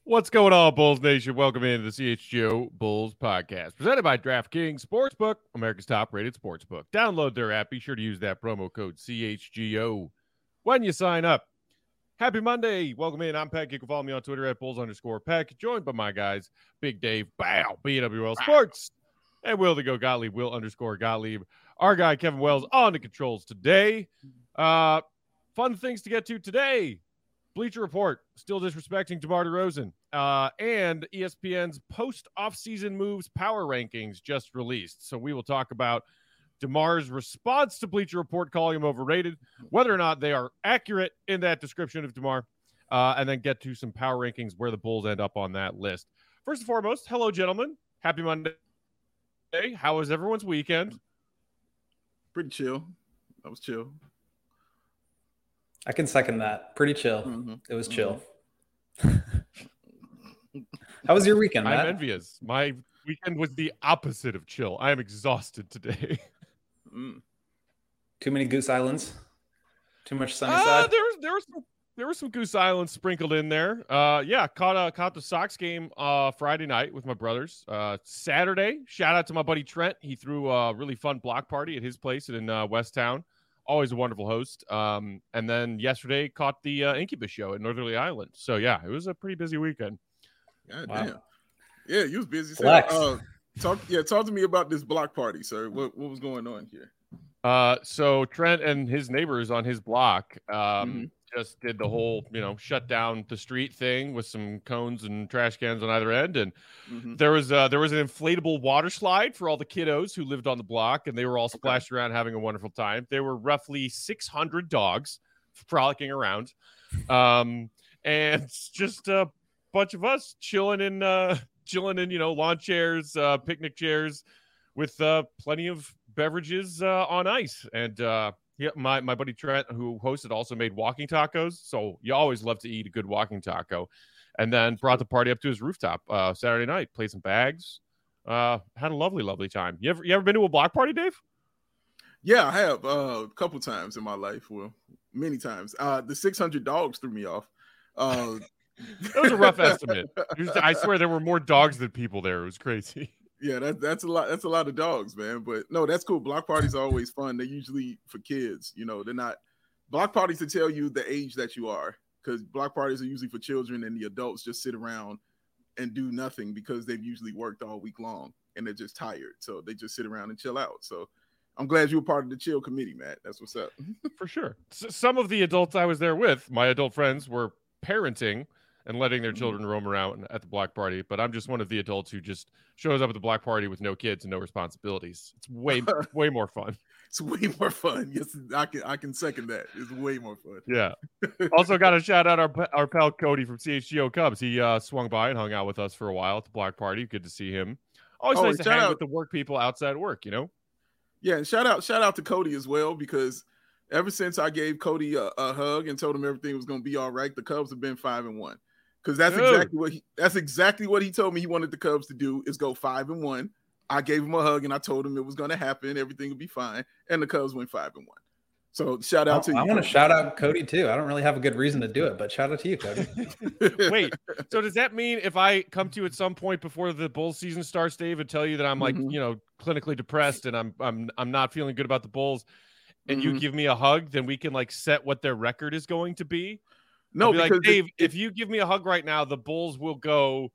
What's going on, Bulls Nation? Welcome into the CHGO Bulls podcast, presented by DraftKings Sportsbook, America's top-rated sportsbook. Download their app. Be sure to use that promo code CHGO when you sign up. Happy Monday. Welcome in. I'm Peck. You can follow me on Twitter at Bulls_Peck, joined by my guys, Big Dave, Bow, BWL Sports, and Will the Go Gottlieb, Will_Gottlieb. Our guy, Kevin Wells, on the controls today. Fun things to get to today. Bleacher Report still disrespecting DeMar DeRozan, and ESPN's post-offseason moves power rankings just released. So we will talk about DeMar's response to Bleacher Report calling him overrated, whether or not they are accurate in that description of DeMar, and then get to some power rankings where the Bulls end up on that list. First and foremost, hello, gentlemen. Happy Monday. How was everyone's weekend? Pretty chill. That was chill. I can second that. Pretty chill. Mm-hmm. It was chill. Mm-hmm. How was your weekend, Matt? I'm envious. My weekend was the opposite of chill. I am exhausted today. Too many Goose Islands? Too much Sunnyside? There were some Goose Islands sprinkled in there. Caught the Sox game Friday night with my brothers. Saturday, shout out to my buddy Trent. He threw a really fun block party at his place in West Town. Always a wonderful host. And then yesterday caught the Incubus show at Northerly Island. So, yeah, it was a pretty busy weekend. God damn. Yeah, you was busy. Flex. Talk to me about this block party, sir. What was going on here? So Trent and his neighbors on his block just did the whole, shut down the street thing with some cones and trash cans on either end. And there was an inflatable water slide for all the kiddos who lived on the block, and they were all splashed around having a wonderful time. There were roughly 600 dogs frolicking around. And just a bunch of us chilling in lawn chairs, picnic chairs with plenty of beverages on ice. And my buddy Trent, who hosted, also made walking tacos. So you always love to eat a good walking taco. And then brought the party up to his rooftop Saturday night, played some bags, had a lovely, lovely time. You ever been to a block party, Dave? Yeah, I have a couple times in my life. Well, many times. The 600 dogs threw me off. That was a rough estimate. I swear there were more dogs than people there. It was crazy. Yeah, that's a lot. That's a lot of dogs, man. But no, that's cool. Block parties are always fun. They're usually for kids. They're not block parties to tell you the age that you are, because block parties are usually for children, and the adults just sit around and do nothing because they've usually worked all week long and they're just tired. So they just sit around and chill out. So I'm glad you were part of the chill committee, Matt. That's what's up. For sure. Some of the adults I was there with, my adult friends, were parenting and letting their children roam around at the block party. But I'm just one of the adults who just shows up at the block party with no kids and no responsibilities. It's way more fun. It's way more fun. Yes, I can second that. It's way more fun. Yeah. Also got to shout out our pal Cody from CHGO Cubs. He swung by and hung out with us for a while at the block party. Good to see him. Always nice to hang with the work people outside work, Yeah, and shout out to Cody as well, because ever since I gave Cody a hug and told him everything was going to be all right, the Cubs have been 5-1. Because that's exactly what he told me he wanted the Cubs to do, is go 5-1. I gave him a hug and I told him it was going to happen. Everything would be fine. And the Cubs went 5-1. So shout out to you. I want to shout out Cody too. I don't really have a good reason to do it, but shout out to you, Cody. Wait, so does that mean if I come to you at some point before the Bulls season starts, Dave, and tell you that I'm like, clinically depressed and I'm not feeling good about the Bulls, and you give me a hug, then we can like set what their record is going to be? No, because like, Dave, if you give me a hug right now, the Bulls will go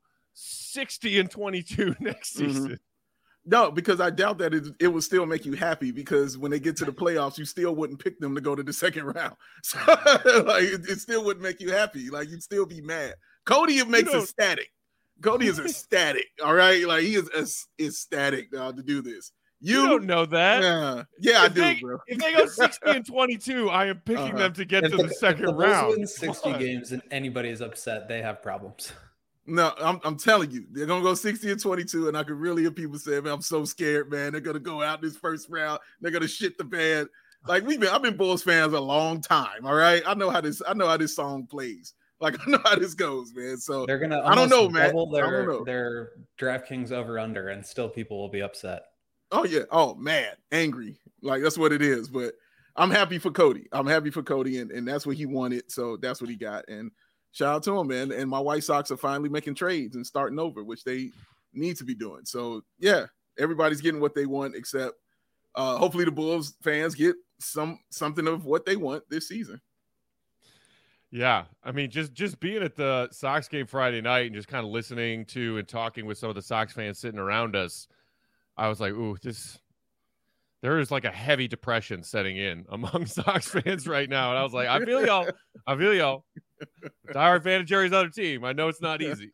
60-22 next season. No, because I doubt that it will still make you happy, because when they get to the playoffs, you still wouldn't pick them to go to the second round. So like it still wouldn't make you happy. Like you'd still be mad. Cody makes ecstatic. Cody is ecstatic. All right. Like he is ecstatic to do this. You don't know that. Yeah, I do, bro. If they go 60-22, I am picking them to get to the second round. If the Bulls win 60 games and anybody is upset, they have problems. No, I'm telling you, they're gonna go 60-22, and I could really hear people say, "Man, I'm so scared, man. They're gonna go out this first round. They're gonna shit the bed." Like I've been Bulls fans a long time. All right, I know how this song plays. Like I know how this goes, man. So they're gonna. I don't know, man. Double their DraftKings over under, and still people will be upset. Oh yeah. Oh man, angry. Like that's what it is. But I'm happy for Cody. And that's what he wanted. So that's what he got. And Shout out to them, man. And my White Sox are finally making trades and starting over, which they need to be doing. So, yeah, everybody's getting what they want, except hopefully the Bulls fans get something of what they want this season. Yeah, I mean, just being at the Sox game Friday night and just kind of listening to and talking with some of the Sox fans sitting around us, I was like, ooh, there is like a heavy depression setting in among Sox fans right now. And I was like, I feel y'all. Diehard fan of Jerry's other team. I know it's not easy.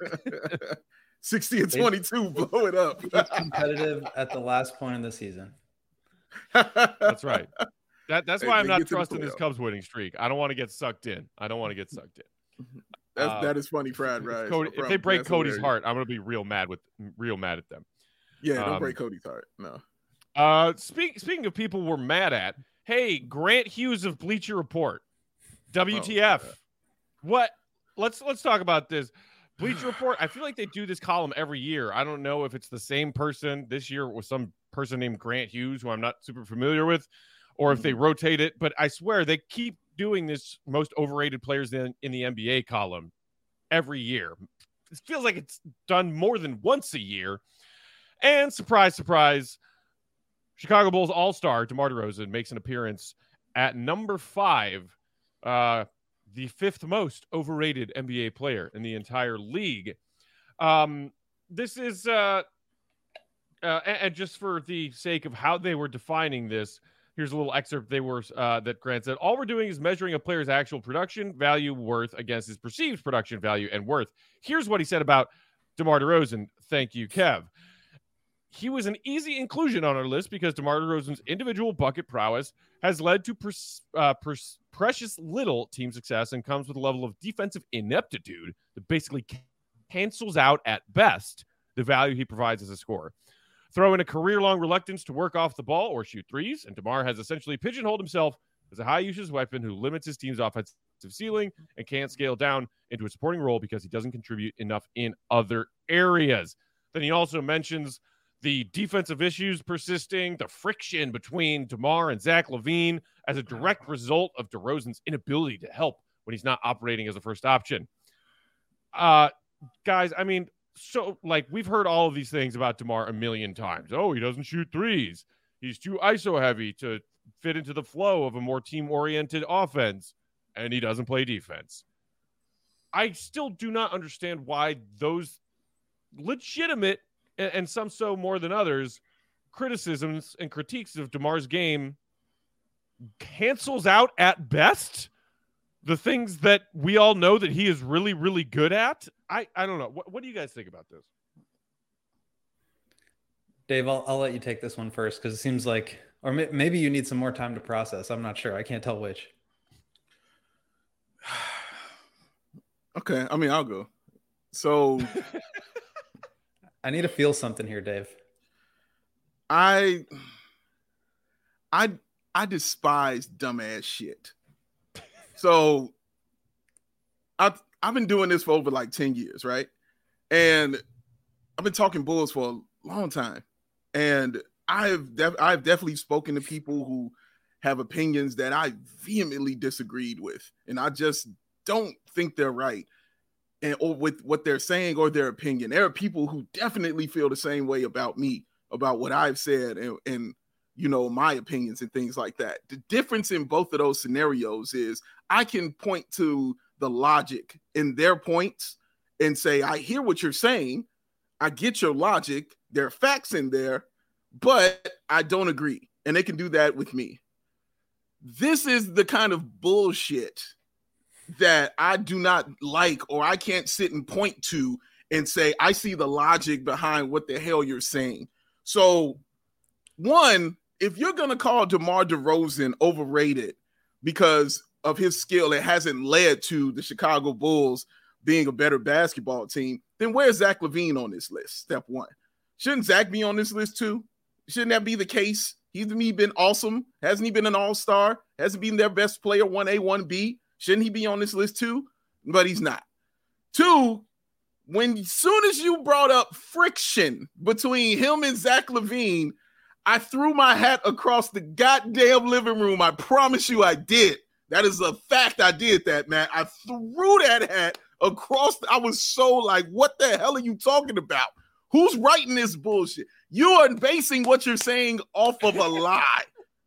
60-22, blow it up. It's competitive at the last point of the season. That's right. That's why I'm not trusting this Cubs winning streak. I don't want to get sucked in. That is funny, Brad. Right? If they break Cody's heart, I'm gonna be real mad at them. Yeah, don't break Cody's heart. No. Speaking of people we're mad at, hey, Grant Hughes of Bleacher Report, WTF? What? Let's talk about this. Bleacher Report. I feel like they do this column every year. I don't know if it's the same person. This year it was some person named Grant Hughes, who I'm not super familiar with, or if they rotate it. But I swear they keep doing this most overrated players in the NBA column every year. It feels like it's done more than once a year. And surprise, surprise, Chicago Bulls All-Star DeMar DeRozan makes an appearance at number 5, the 5th most overrated NBA player in the entire league. This is, and just for the sake of how they were defining this, here's a little excerpt that Grant said. All we're doing is measuring a player's actual production value worth against his perceived production value and worth. Here's what he said about DeMar DeRozan. Thank you, Kev. He was an easy inclusion on our list because DeMar DeRozan's individual bucket prowess has led to precious little team success and comes with a level of defensive ineptitude that basically cancels out at best the value he provides as a scorer. Throw in a career-long reluctance to work off the ball or shoot threes, and DeMar has essentially pigeonholed himself as a high-usage weapon who limits his team's offensive ceiling and can't scale down into a supporting role because he doesn't contribute enough in other areas. Then he also mentions the defensive issues persisting, the friction between DeMar and Zach LaVine as a direct result of DeRozan's inability to help when he's not operating as a first option. Guys, I mean, so like we've heard all of these things about DeMar a million times. Oh, he doesn't shoot threes. He's too ISO heavy to fit into the flow of a more team-oriented offense, and he doesn't play defense. I still do not understand why those legitimate, and some so more than others, criticisms and critiques of DeMar's game cancels out at best the things that we all know that he is really, really good at. I don't know. What do you guys think about this? Dave, I'll let you take this one first because it seems like, or maybe you need some more time to process. I'm not sure. I can't tell which. Okay. I mean, I'll go. So I need to feel something here, Dave. I despise dumbass shit. So I've been doing this for over like 10 years, right? And I've been talking Bulls for a long time. And I've definitely spoken to people who have opinions that I vehemently disagreed with. And I just don't think they're right. Or with what they're saying or their opinion. There are people who definitely feel the same way about me, about what I've said and you know, my opinions and things like that. The difference in both of those scenarios is I can point to the logic in their points and say, I hear what you're saying. I get your logic. There are facts in there, but I don't agree. And they can do that with me. This is the kind of bullshit that I do not like, or I can't sit and point to and say, I see the logic behind what the hell you're saying. So, one, if you're going to call DeMar DeRozan overrated because of his skill, it hasn't led to the Chicago Bulls being a better basketball team, then where's Zach LaVine on this list? Step one. Shouldn't Zach be on this list too? Shouldn't that be the case? He's been awesome. Hasn't he been an all-star? Hasn't been their best player, 1A, 1B? Shouldn't he be on this list too? But he's not. Two, as soon as you brought up friction between him and Zach LaVine, I threw my hat across the goddamn living room. I promise you I did. That is a fact. I did that, man. I threw that hat I was so like, what the hell are you talking about? Who's writing this bullshit? You are basing what you're saying off of a lie.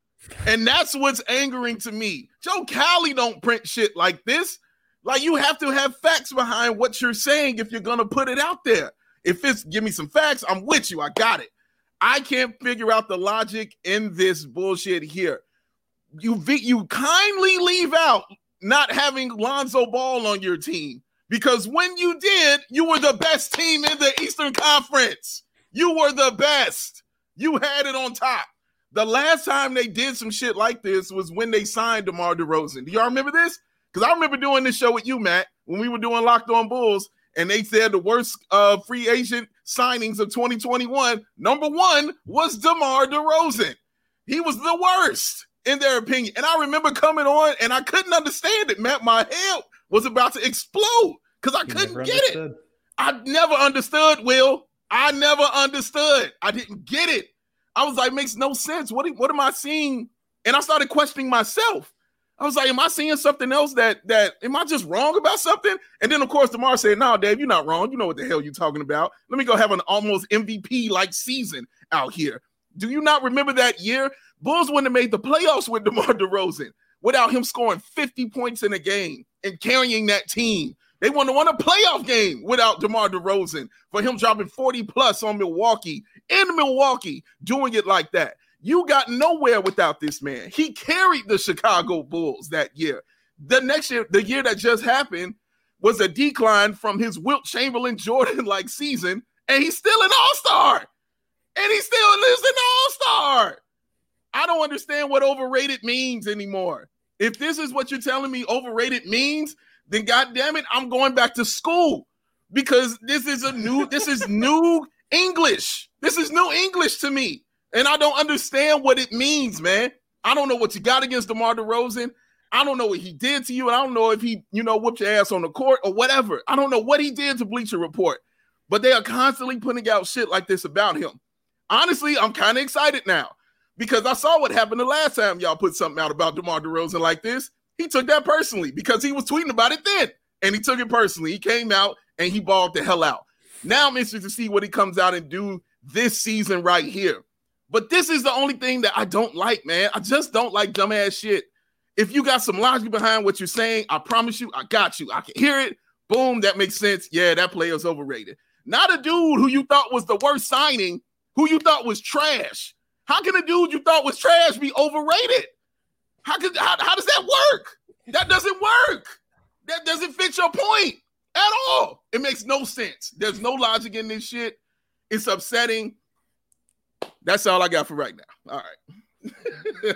And that's what's angering to me. Joe Cowley don't print shit like this. Like, you have to have facts behind what you're saying if you're going to put it out there. If it's give me some facts, I'm with you. I got it. I can't figure out the logic in this bullshit here. You kindly leave out not having Lonzo Ball on your team, because when you did, you were the best team in the Eastern Conference. You were the best. You had it on top. The last time they did some shit like this was when they signed DeMar DeRozan. Do y'all remember this? Because I remember doing this show with you, Matt, when we were doing Locked On Bulls, and they said the worst free agent signings of 2021, number one was DeMar DeRozan. He was the worst, in their opinion. And I remember coming on, and I couldn't understand it, Matt. My head was about to explode because I couldn't get it. I never understood, Will. I never understood. I didn't get it. I was like, makes no sense. What am I seeing? And I started questioning myself. I was like, am I seeing something else that am I just wrong about something? And then, of course, DeMar said, no, Dave, you're not wrong. You know what the hell you're talking about. Let me go have an almost MVP-like season out here. Do you not remember that year? Bulls wouldn't have made the playoffs with DeMar DeRozan without him scoring 50 points in a game and carrying that team. They wouldn't have won a playoff game without DeMar DeRozan for him dropping 40-plus on Milwaukee, in Milwaukee, doing it like that. You got nowhere without this man. He carried the Chicago Bulls that year. The next year, the year that just happened, was a decline from his Wilt Chamberlain Jordan-like season, and he's still an all-star. And he still lives an all-star. I don't understand what overrated means anymore. If this is what you're telling me overrated means, then goddamn it, I'm going back to school, because this is new English. This is new English to me. And I don't understand what it means, man. I don't know what you got against DeMar DeRozan. I don't know what he did to you. And I don't know if he, whooped your ass on the court or whatever. I don't know what he did to Bleacher Report. But they are constantly putting out shit like this about him. Honestly, I'm kind of excited now, because I saw what happened the last time y'all put something out about DeMar DeRozan like this. He took that personally because he was tweeting about it then. And he took it personally. He came out and he balled the hell out. Now I'm interested to see what he comes out and do this season right here. But this is the only thing that I don't like, man. I just don't like dumbass shit. If you got some logic behind what you're saying, I promise you, I got you. I can hear it. Boom, that makes sense. Yeah, that player's overrated. Not a dude who you thought was the worst signing, who you thought was trash. How can a dude you thought was trash be overrated? How does that work? That doesn't work. That doesn't fit your point at all. It makes no sense. There's no logic in this shit. It's upsetting. That's all I got for right now. All right.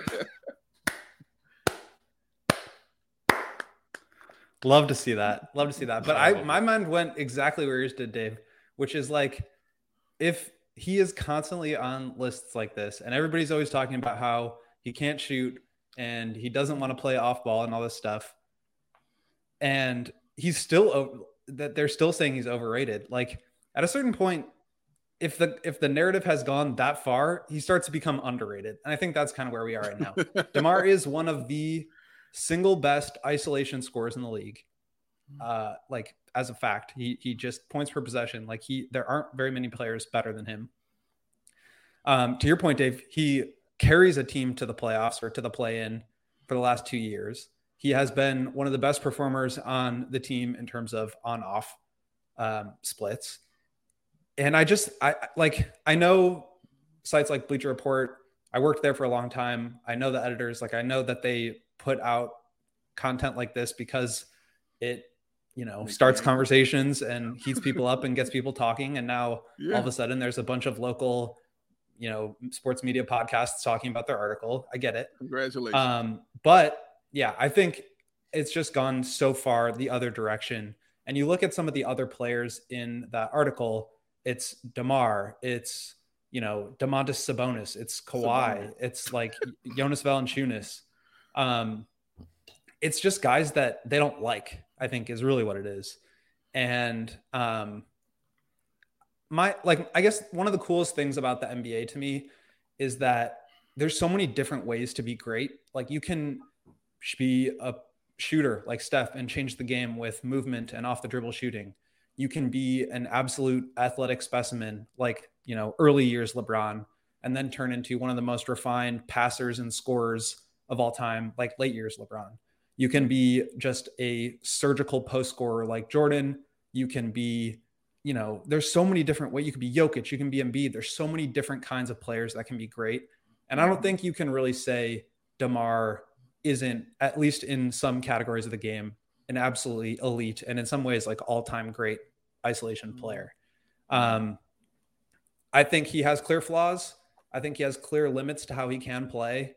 Love to see that. But my mind went exactly where yours did, Dave, which is like, if he is constantly on lists like this and everybody's always talking about how he can't shoot and he doesn't want to play off ball and all this stuff, and he's still that they're still saying he's overrated. Like, at a certain point, if the narrative has gone that far, he starts to become underrated. And I think that's kind of where we are right now. DeMar is one of the single best isolation scorers in the league. Like, as a fact, he just points per possession. Like, there aren't very many players better than him. To your point, Dave, he carries a team to the playoffs or to the play-in for the last 2 years. He has been one of the best performers on the team in terms of on-off splits. And I know sites like Bleacher Report. I worked there for a long time. I know the editors. Like, I know that they put out content like this because it, starts conversations and heats people up and gets people talking. And now all of a sudden there's a bunch of local, sports media podcasts talking about their article. I get it. Congratulations. But yeah, I think it's just gone so far the other direction. And you look at some of the other players in that article, it's DeMar, it's, Domantas Sabonis, it's Kawhi, it's like Jonas Valanciunas. It's just guys that they don't like, I think, is really what it is. And I guess one of the coolest things about the NBA to me is that there's so many different ways to be great. Like, you can be shooter like Steph and change the game with movement and off the dribble shooting. You can be an absolute athletic specimen like, early years LeBron, and then turn into one of the most refined passers and scorers of all time, like late years LeBron. You can be just a surgical post scorer like Jordan. You can be, there's so many different ways. You can be Jokic, you can be Embiid. There's so many different kinds of players that can be great. And I don't think you can really say DeMar isn't, at least in some categories of the game, an absolutely elite and in some ways like all-time great isolation player. I think he has clear flaws. I think he has clear limits to how he can play.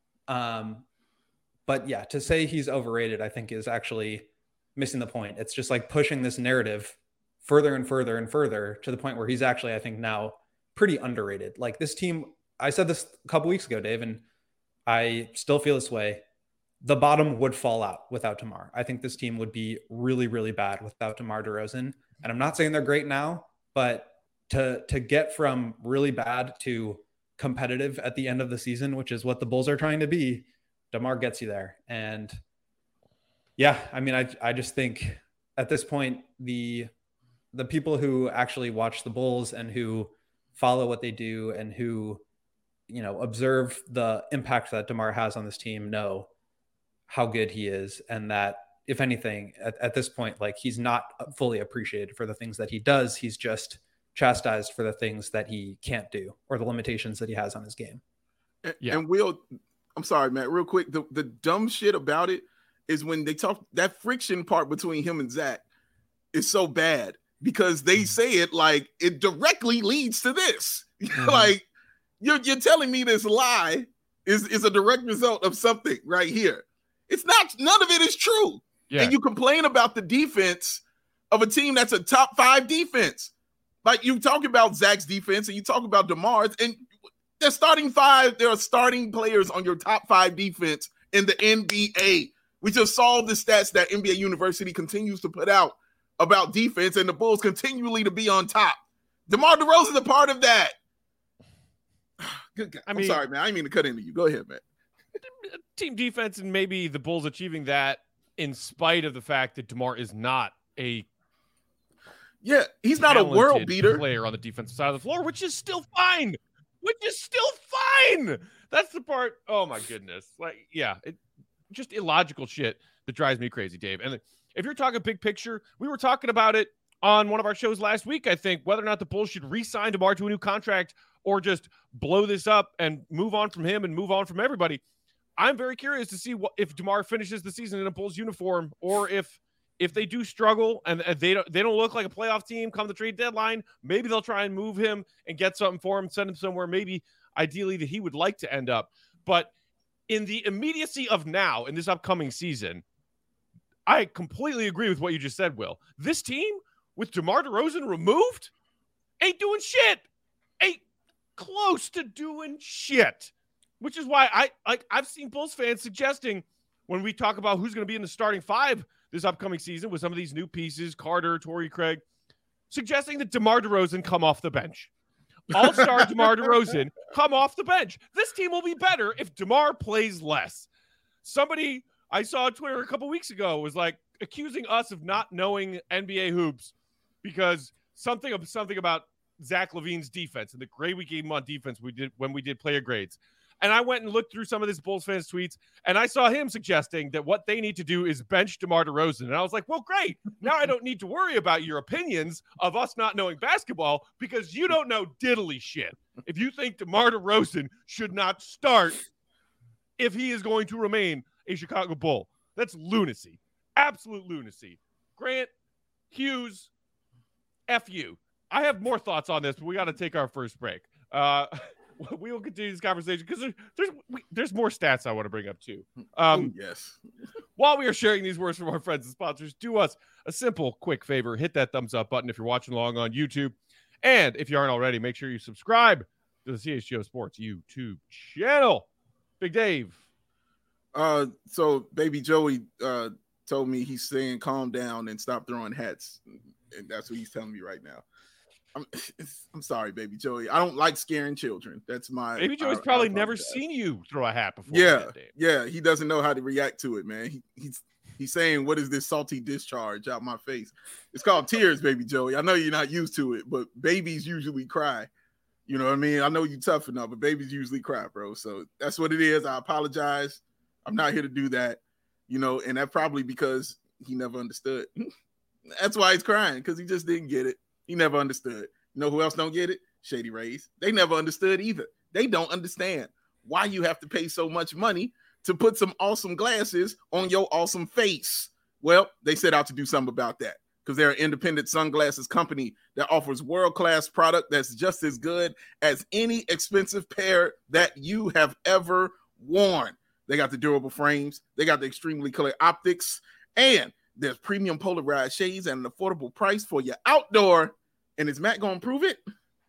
But yeah, to say he's overrated, I think is actually missing the point. It's just like pushing this narrative further and further and further to the point where he's actually, I think now pretty underrated. Like this team, I said this a couple weeks ago, Dave, and I still feel this way. The bottom would fall out without DeMar. I think this team would be really, really bad without DeMar DeRozan. And I'm not saying they're great now, but to get from really bad to competitive at the end of the season, which is what the Bulls are trying to be, DeMar gets you there. And yeah, I mean, I just think at this point, the people who actually watch the Bulls and who follow what they do and who, observe the impact that DeMar has on this team know how good he is. And that if anything, at this point, like he's not fully appreciated for the things that he does. He's just chastised for the things that he can't do or the limitations that he has on his game. And Will, I'm sorry, Matt, real quick. The dumb shit about it is when they talk, that friction part between him and Zach is so bad because they say it like it directly leads to this. Like you're telling me this lie is a direct result of something right here. It's not, none of it is true. Yeah. And you complain about the defense of a team that's a top 5 defense. Like you talk about Zach's defense and you talk about DeMar's, and they're starting 5. There are starting players on your top 5 defense in the NBA. We just saw the stats that NBA University continues to put out about defense, and the Bulls continually to be on top. DeMar DeRozan is a part of that. Good God. I'm sorry, man. I didn't mean to cut into you. Go ahead, man. Team defense, and maybe the Bulls achieving that in spite of the fact that DeMar is not a he's not a world beater player on the defensive side of the floor, which is still fine. That's the part. Oh my goodness. Like, yeah, just illogical shit that drives me crazy, Dave. And if you're talking big picture, we were talking about it on one of our shows last week, I think, whether or not the Bulls should re-sign DeMar to a new contract or just blow this up and move on from him and move on from everybody. I'm very curious to see if DeMar finishes the season in a Bulls uniform, or if they do struggle and they don't look like a playoff team come the trade deadline, maybe they'll try and move him and get something for him, send him somewhere maybe ideally that he would like to end up. But in the immediacy of now, in this upcoming season, I completely agree with what you just said, Will. This team with DeMar DeRozan removed ain't doing shit. Ain't close to doing shit. Which is why I've seen Bulls fans suggesting when we talk about who's going to be in the starting 5 this upcoming season with some of these new pieces, Carter, Torrey Craig, suggesting that DeMar DeRozan come off the bench. All-star DeMar DeRozan come off the bench. This team will be better if DeMar plays less. Somebody I saw on Twitter a couple weeks ago was like accusing us of not knowing NBA hoops because something about Zach LaVine's defense and the grade we gave him on defense when we did player grades. And I went and looked through some of this Bulls fans' tweets, and I saw him suggesting that what they need to do is bench DeMar DeRozan. And I was like, well, great. Now I don't need to worry about your opinions of us not knowing basketball because you don't know diddly shit. If you think DeMar DeRozan should not start if he is going to remain a Chicago Bull, that's lunacy. Absolute lunacy. Grant, Hughes, F you. I have more thoughts on this, but we got to take our first break. We will continue this conversation because there's more stats I want to bring up too. Yes. While we are sharing these words from our friends and sponsors, do us a simple, quick favor. Hit that thumbs up button if you're watching along on YouTube. And if you aren't already, make sure you subscribe to the CHGO Sports YouTube channel. Big Dave. So Baby Joey told me he's saying calm down and stop throwing hats. And that's what he's telling me right now. I'm sorry, Baby Joey. I don't like scaring children. That's my Baby Joey's probably never seen you throw a hat before. Yeah, he doesn't know how to react to it, man. He's He's saying, what is this salty discharge out my face? It's called tears, baby Joey. I know you're not used to it, but babies usually cry. You know what I mean? I know you're tough enough, but babies usually cry, bro. So that's what it is. I apologize. I'm not here to do that. And that's probably because he never understood. That's why he's crying, because he just didn't get it. He never understood. You know who else don't get it? Shady Rays. They never understood either. They don't understand why you have to pay so much money to put some awesome glasses on your awesome face. Well, they set out to do something about that, because they're an independent sunglasses company that offers world-class product that's just as good as any expensive pair that you have ever worn. They got the durable frames, they got the extremely clear optics, and there's premium polarized shades at an affordable price for your outdoor. And is Matt going to prove it?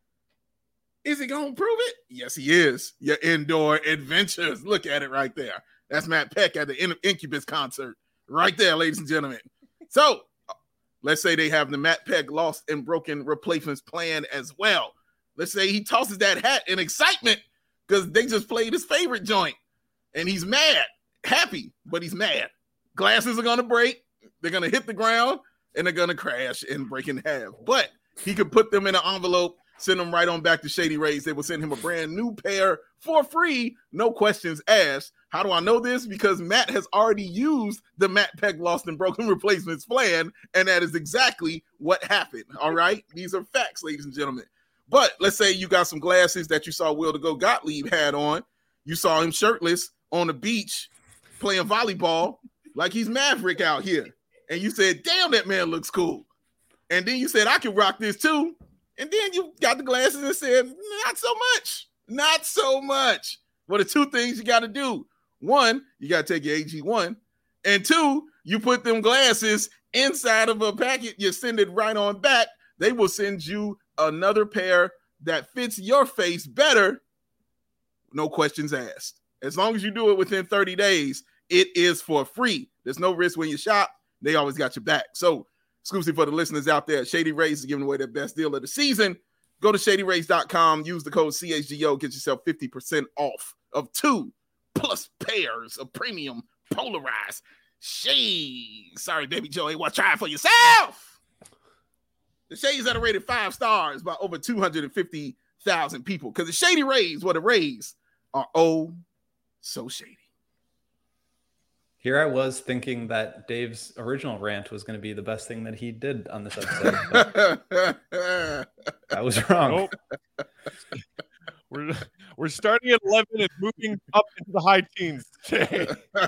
Is he going to prove it? Yes, he is. Your indoor adventures. Look at it right there. That's Matt Peck at the Incubus concert. Right there, ladies and gentlemen. So, let's say they have the Matt Peck lost and broken replacements plan as well. Let's say he tosses that hat in excitement because they just played his favorite joint. And he's mad. Happy, but he's mad. Glasses are going to break. They're going to hit the ground, and they're going to crash and break in half. But he could put them in an envelope, send them right on back to Shady Rays. They will send him a brand new pair for free, no questions asked. How do I know this? Because Matt has already used the Matt Peck lost and broken replacements plan, and that is exactly what happened, all right? These are facts, ladies and gentlemen. But let's say you got some glasses that you saw Will to Go Gottlieb had on. You saw him shirtless on the beach playing volleyball like he's Maverick out here. And you said, damn, that man looks cool. And then you said, I can rock this too. And then you got the glasses and said, not so much. Not so much. Well, the two things you got to do. One, you got to take your AG1. And two, you put them glasses inside of a packet. You send it right on back. They will send you another pair that fits your face better. No questions asked. As long as you do it within 30 days, it is for free. There's no risk when you shop. They always got your back. So, exclusive for the listeners out there, Shady Rays is giving away their best deal of the season. Go to shadyrays.com, use the code CHGO, get yourself 50% off of 2+ pairs of premium polarized shades. Sorry, baby Joey, well, try it for yourself. The shades that are rated 5 stars by over 250,000 people, because the Shady Rays, the Rays are oh so shady. Here I was thinking that Dave's original rant was going to be the best thing that he did on this episode. I was wrong. Nope. We're starting at 11 and moving up into the high teens today.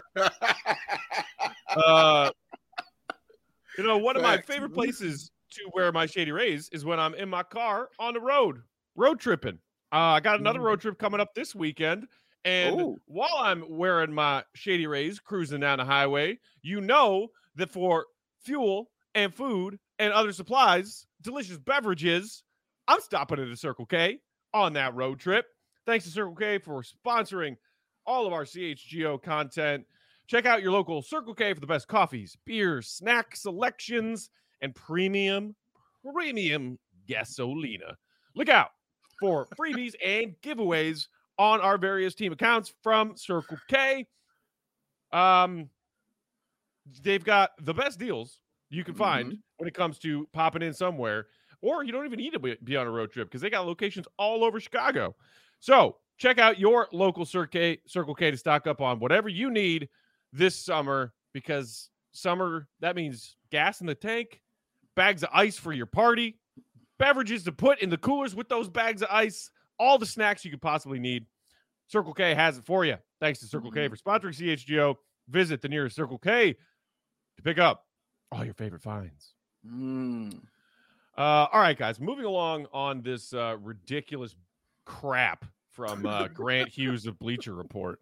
One of my favorite places to wear my Shady Rays is when I'm in my car on the road tripping. I got another road trip coming up this weekend. And while I'm wearing my Shady Rays cruising down the highway, you know that for fuel and food and other supplies, delicious beverages, I'm stopping at a Circle K on that road trip. Thanks to Circle K for sponsoring all of our CHGO content. Check out your local Circle K for the best coffees, beers, snack selections, and premium gasolina. Look out for freebies and giveaways on our various team accounts from Circle K. They've got the best deals you can find when it comes to popping in somewhere, or you don't even need to be on a road trip because they got locations all over Chicago. So check out your local Circle K to stock up on whatever you need this summer, because summer, that means gas in the tank, bags of ice for your party, beverages to put in the coolers with those bags of ice, all the snacks you could possibly need. Circle K has it for you. Thanks to Circle K for sponsoring CHGO. Visit the nearest Circle K to pick up all your favorite finds. All right, guys, moving along on this ridiculous crap from Grant Hughes of Bleacher Report.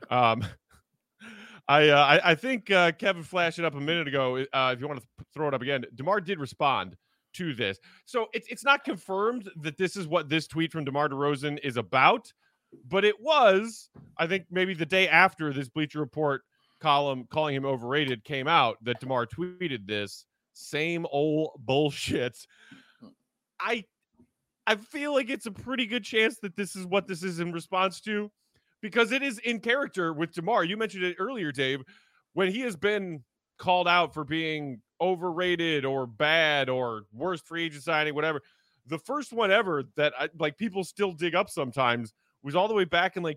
I think Kevin flashed it up a minute ago. If you want to throw it up again, DeMar did respond to this. So it's not confirmed that this is what this tweet from DeMar DeRozan is about, but it was, I think, maybe the day after this Bleacher Report column calling him overrated came out that DeMar tweeted this. Same old bullshit. I feel like it's a pretty good chance that this is what this is in response to, because it is in character with DeMar. You mentioned it earlier, Dave, when he has been called out for being overrated or bad or worst free agent signing, whatever. The first one ever that people still dig up sometimes was all the way back in like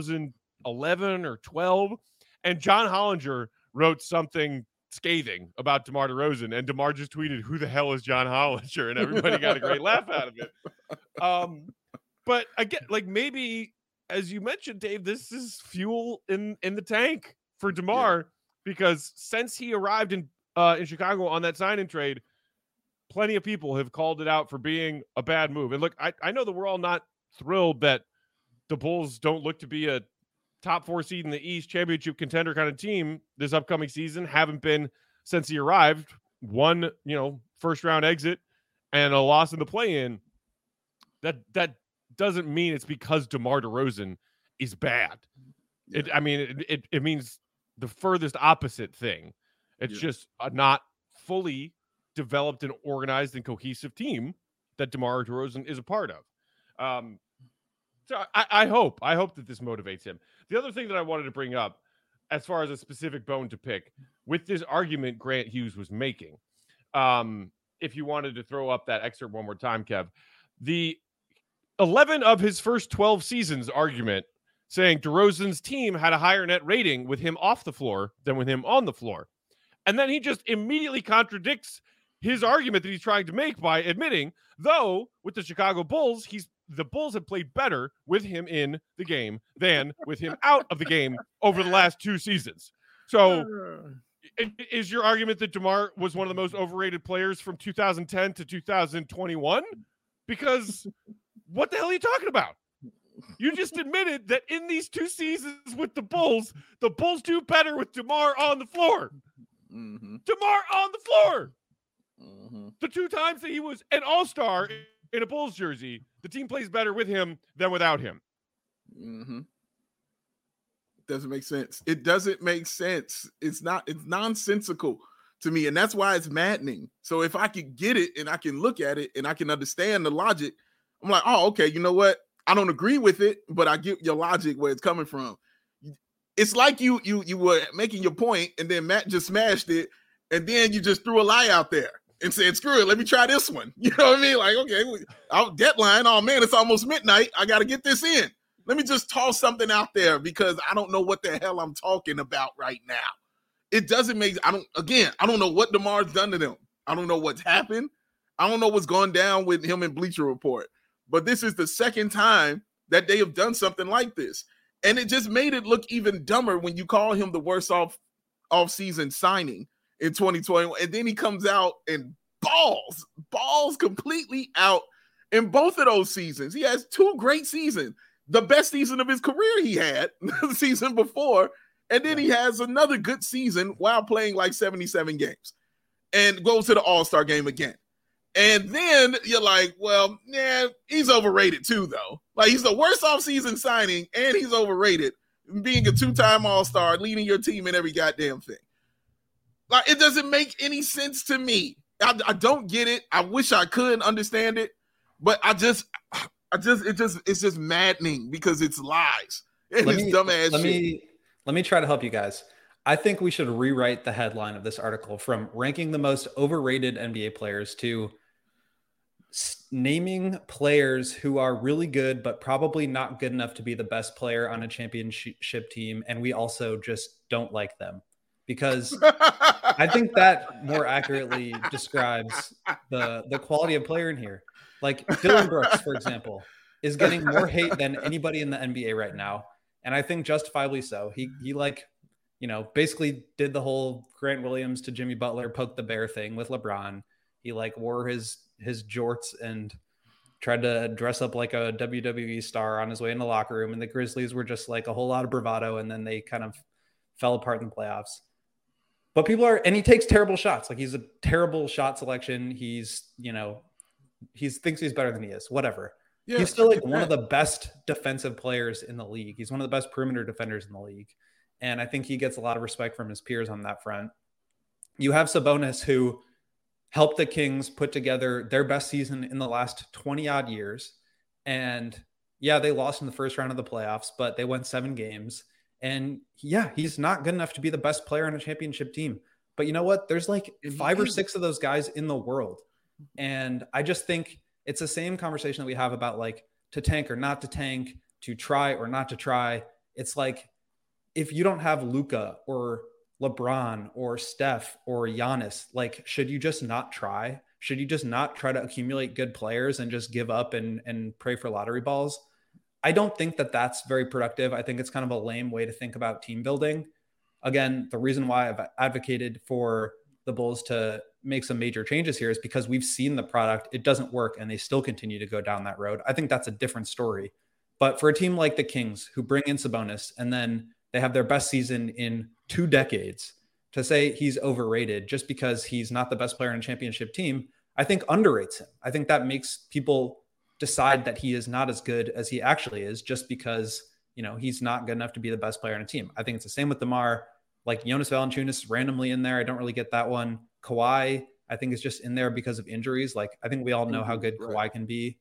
2011 or 12. And John Hollinger wrote something scathing about DeMar DeRozan, and DeMar just tweeted, "Who the hell is John Hollinger?" And everybody got a great laugh out of it. But again, like maybe, as you mentioned, Dave, this is fuel in the tank for DeMar, because since he arrived in Chicago on that sign and trade, plenty of people have called it out for being a bad move. And look, I know that we're all not thrilled that the Bulls don't look to be a top 4 seed in the East, championship contender kind of team this upcoming season. Haven't been since he arrived. One, first round exit and a loss in the play-in. That doesn't mean it's because DeMar DeRozan is bad. Yeah. It means the furthest opposite thing. It's just a not fully developed and organized and cohesive team that DeMar DeRozan is a part of. So I hope that this motivates him. The other thing that I wanted to bring up, as far as a specific bone to pick, with this argument Grant Hughes was making, if you wanted to throw up that excerpt one more time, Kev, the 11 of his first 12 seasons argument saying DeRozan's team had a higher net rating with him off the floor than with him on the floor. And then he just immediately contradicts his argument that he's trying to make by admitting, though, with the Chicago Bulls, the Bulls have played better with him in the game than with him out of the game over the last 2 seasons. So is your argument that DeMar was one of the most overrated players from 2010 to 2021? Because what the hell are you talking about? You just admitted that in these 2 seasons with the Bulls do better with DeMar on the floor. Mm-hmm. DeMar on the floor. Mm-hmm. The 2 times that he was an all-star in a Bulls jersey, the team plays better with him than without him. Mm-hmm. Doesn't make sense. It doesn't make sense. It's nonsensical to me. And that's why it's maddening. So if I could get it and I can look at it and I can understand the logic, I'm like, oh, okay, you know what? I don't agree with it, but I get your logic where it's coming from. It's like you were making your point and then Matt just smashed it. And then you just threw a lie out there and said, screw it, let me try this one. You know what I mean? Like, okay, I'll deadline. Oh, man, it's almost midnight. I got to get this in. Let me just toss something out there because I don't know what the hell I'm talking about right now. It doesn't make – I don't know what DeMar's done to them. I don't know what's happened. I don't know what's gone down with him in Bleacher Report. But this is the second time that they have done something like this. And it just made it look even dumber when you call him the worst off-season signing in 2021. And then he comes out and balls completely out in both of those seasons. He has 2 great seasons. The best season of his career he had the season before. And then he has another good season while playing like 77 games and goes to the All-Star game again. And then you're like, well, yeah, he's overrated too, though. Like, he's the worst offseason signing, and he's overrated, being a 2-time All-Star, leading your team in every goddamn thing. Like, it doesn't make any sense to me. I don't get it. I wish I could understand it, but it's just maddening because it's lies. It's dumbass shit. Let me try to help you guys. I think we should rewrite the headline of this article from ranking the most overrated NBA players to naming players who are really good, but probably not good enough to be the best player on a championship team. And we also just don't like them, because I think that more accurately describes the quality of player in here. Like Dylan Brooks, for example, is getting more hate than anybody in the NBA right now. And I think justifiably so. He basically did the whole Grant Williams to Jimmy Butler poke the bear thing with LeBron. He wore his jorts and tried to dress up like a WWE star on his way in the locker room. And the Grizzlies were just like a whole lot of bravado. And then they kind of fell apart in the playoffs. But and he takes terrible shots. Like, he's a terrible shot selection. He thinks he's better than he is, whatever. Yeah, he's still one of the best defensive players in the league. He's one of the best perimeter defenders in the league. And I think he gets a lot of respect from his peers on that front. You have Sabonis, who helped the Kings put together their best season in the last 20-odd years. And, yeah, they lost in the first round of the playoffs, but they won 7 games. And, yeah, he's not good enough to be the best player on a championship team. But you know what? There's like And 5 or 6 of those guys in the world. And I just think it's the same conversation that we have about like to tank or not to tank, to try or not to try. It's like, if you don't have Luka or LeBron or Steph or Giannis, like, should you just not try? Should you just not try to accumulate good players and just give up and pray for lottery balls? I don't think that that's very productive. I think it's kind of a lame way to think about team building. Again, the reason why I've advocated for the Bulls to make some major changes here is because we've seen the product. It doesn't work, and they still continue to go down that road. I think that's a different story. But for a team like the Kings, who bring in Sabonis, and then they have their best season in 2 decades, to say he's overrated just because he's not the best player in a championship team, I think underrates him. I think that makes people decide that he is not as good as he actually is just because, you know, he's not good enough to be the best player on a team. I think it's the same with DeMar. Like Jonas Valanciunas randomly in there. I don't really get that one. Kawhi, I think, is just in there because of injuries. Like, I think we all know how good Kawhi can be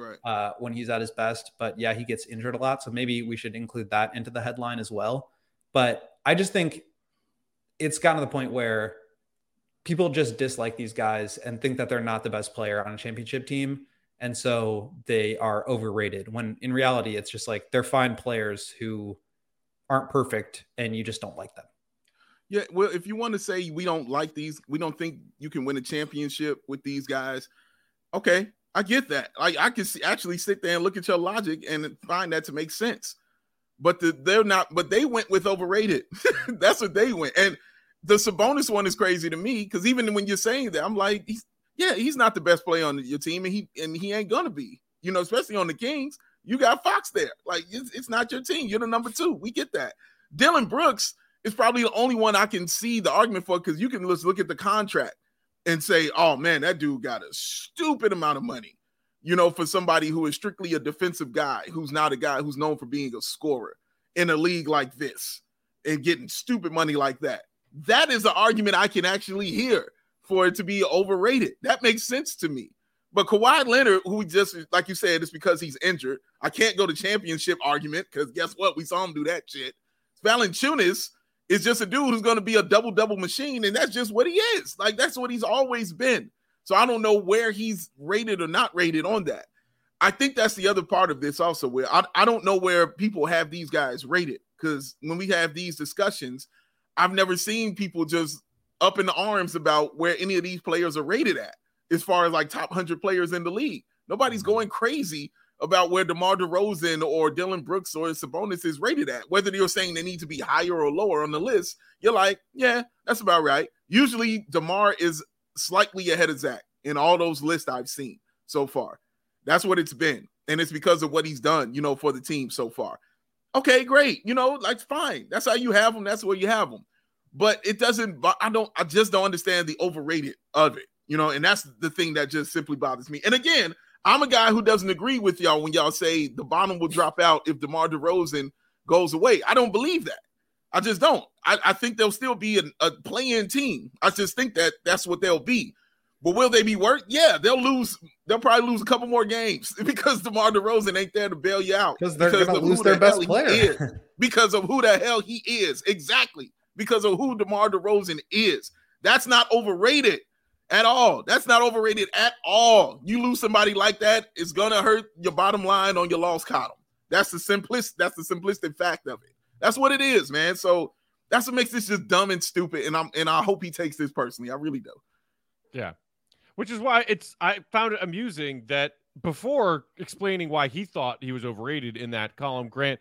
when he's at his best. But yeah, he gets injured a lot. So maybe we should include that into the headline as well. But I just think it's gotten to the point where people just dislike these guys and think that they're not the best player on a championship team. And so they are overrated, when in reality, it's just like they're fine players who aren't perfect and you just don't like them. Yeah, well, if you want to say we don't like these, we don't think you can win a championship with these guys, okay, I get that. I can actually sit there and look at your logic and find that to make sense. But they're not. But they went with overrated. That's what they went. And the Sabonis one is crazy to me because even when you're saying that, I'm like, he's not the best player on your team, and he ain't gonna be. You know, especially on the Kings, you got Fox there. Like it's not your team. You're the number 2. We get that. Dillon Brooks is probably the only one I can see the argument for, because you can just look at the contract and say, oh man, that dude got a stupid amount of money, you know, for somebody who is strictly a defensive guy, who's not a guy who's known for being a scorer in a league like this and getting stupid money like that. That is an argument I can actually hear for it to be overrated. That makes sense to me. But Kawhi Leonard, who just, like you said, it's because he's injured. I can't go to championship argument because guess what? We saw him do that shit. Valanciunas is just a dude who's going to be a double-double machine, and that's just what he is. Like, that's what he's always been. So I don't know where he's rated or not rated on that. I think that's the other part of this also, where I don't know where people have these guys rated, because when we have these discussions, I've never seen people just up in the arms about where any of these players are rated at as far as like top 100 players in the league. Nobody's going crazy about where DeMar DeRozan or Dillon Brooks or Sabonis is rated at. Whether you're saying they need to be higher or lower on the list, you're like, yeah, that's about right. Usually DeMar is slightly ahead of Zach in all those lists I've seen so far. That's what it's been. And it's because of what he's done, you know, for the team so far. Okay, great. You know, like, fine. That's how you have them. That's where you have them. But it doesn't, I just don't understand the overrated of it, you know, and that's the thing that just simply bothers me. And again, I'm a guy who doesn't agree with y'all when y'all say the bottom will drop out if DeMar DeRozan goes away. I don't believe that. I just don't. I think they'll still be a play-in team. I just think that that's what they'll be. But will they be worth? Yeah, they'll lose. They'll probably lose a couple more games because DeMar DeRozan ain't there to bail you out. Because they're going to lose their best player. Because of who the hell he is. Exactly. Because of who DeMar DeRozan is. That's not overrated at all. That's not overrated at all. You lose somebody like that, it's going to hurt your bottom line on your loss column. That's the simplistic fact of it. That's what it is, man. So that's what makes this just dumb and stupid. And I hope he takes this personally. I really do. Yeah. Which is why I found it amusing that before explaining why he thought he was overrated in that column, Grant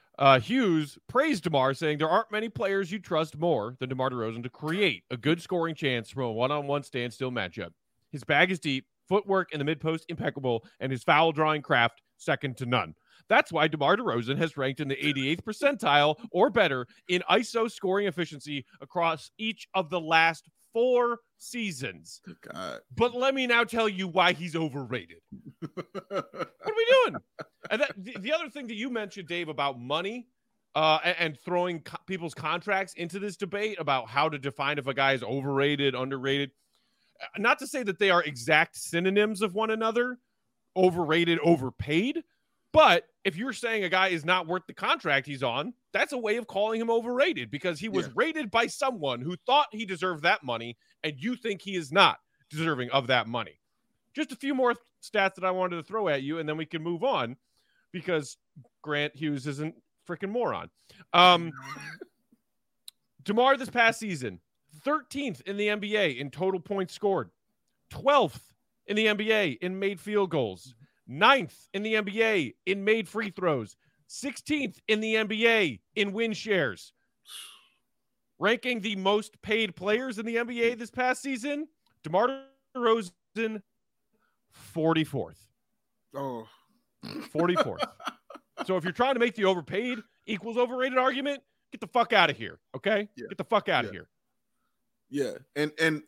Hughes praised DeMar, saying there aren't many players you trust more than DeMar DeRozan to create a good scoring chance from a one-on-one standstill matchup. His bag is deep, footwork in the mid-post impeccable, and his foul drawing craft second to none. That's why DeMar DeRozan has ranked in the 88th percentile or better in ISO scoring efficiency across each of the last 4 seasons. God. But let me now tell you why he's overrated. What are we doing? And the other thing that you mentioned, Dave, about money and throwing people's contracts into this debate about how to define if a guy is overrated, underrated. Not to say that they are exact synonyms of one another, overrated, overpaid, But if you're saying a guy is not worth the contract he's on, that's a way of calling him overrated because he was rated by someone who thought he deserved that money, and you think he is not deserving of that money. Just a few more stats that I wanted to throw at you, and then we can move on because Grant Hughes isn't freaking moron. DeMar this past season, 13th in the NBA in total points scored, 12th in the NBA in made field goals, 9th in the NBA in made free throws, 16th in the NBA in win shares. Ranking the most paid players in the NBA this past season, DeMar DeRozan, 44th. Oh. 44th. So if you're trying to make the overpaid equals overrated argument, get the fuck out of here, okay? Yeah. Get the fuck out of here. Yeah, and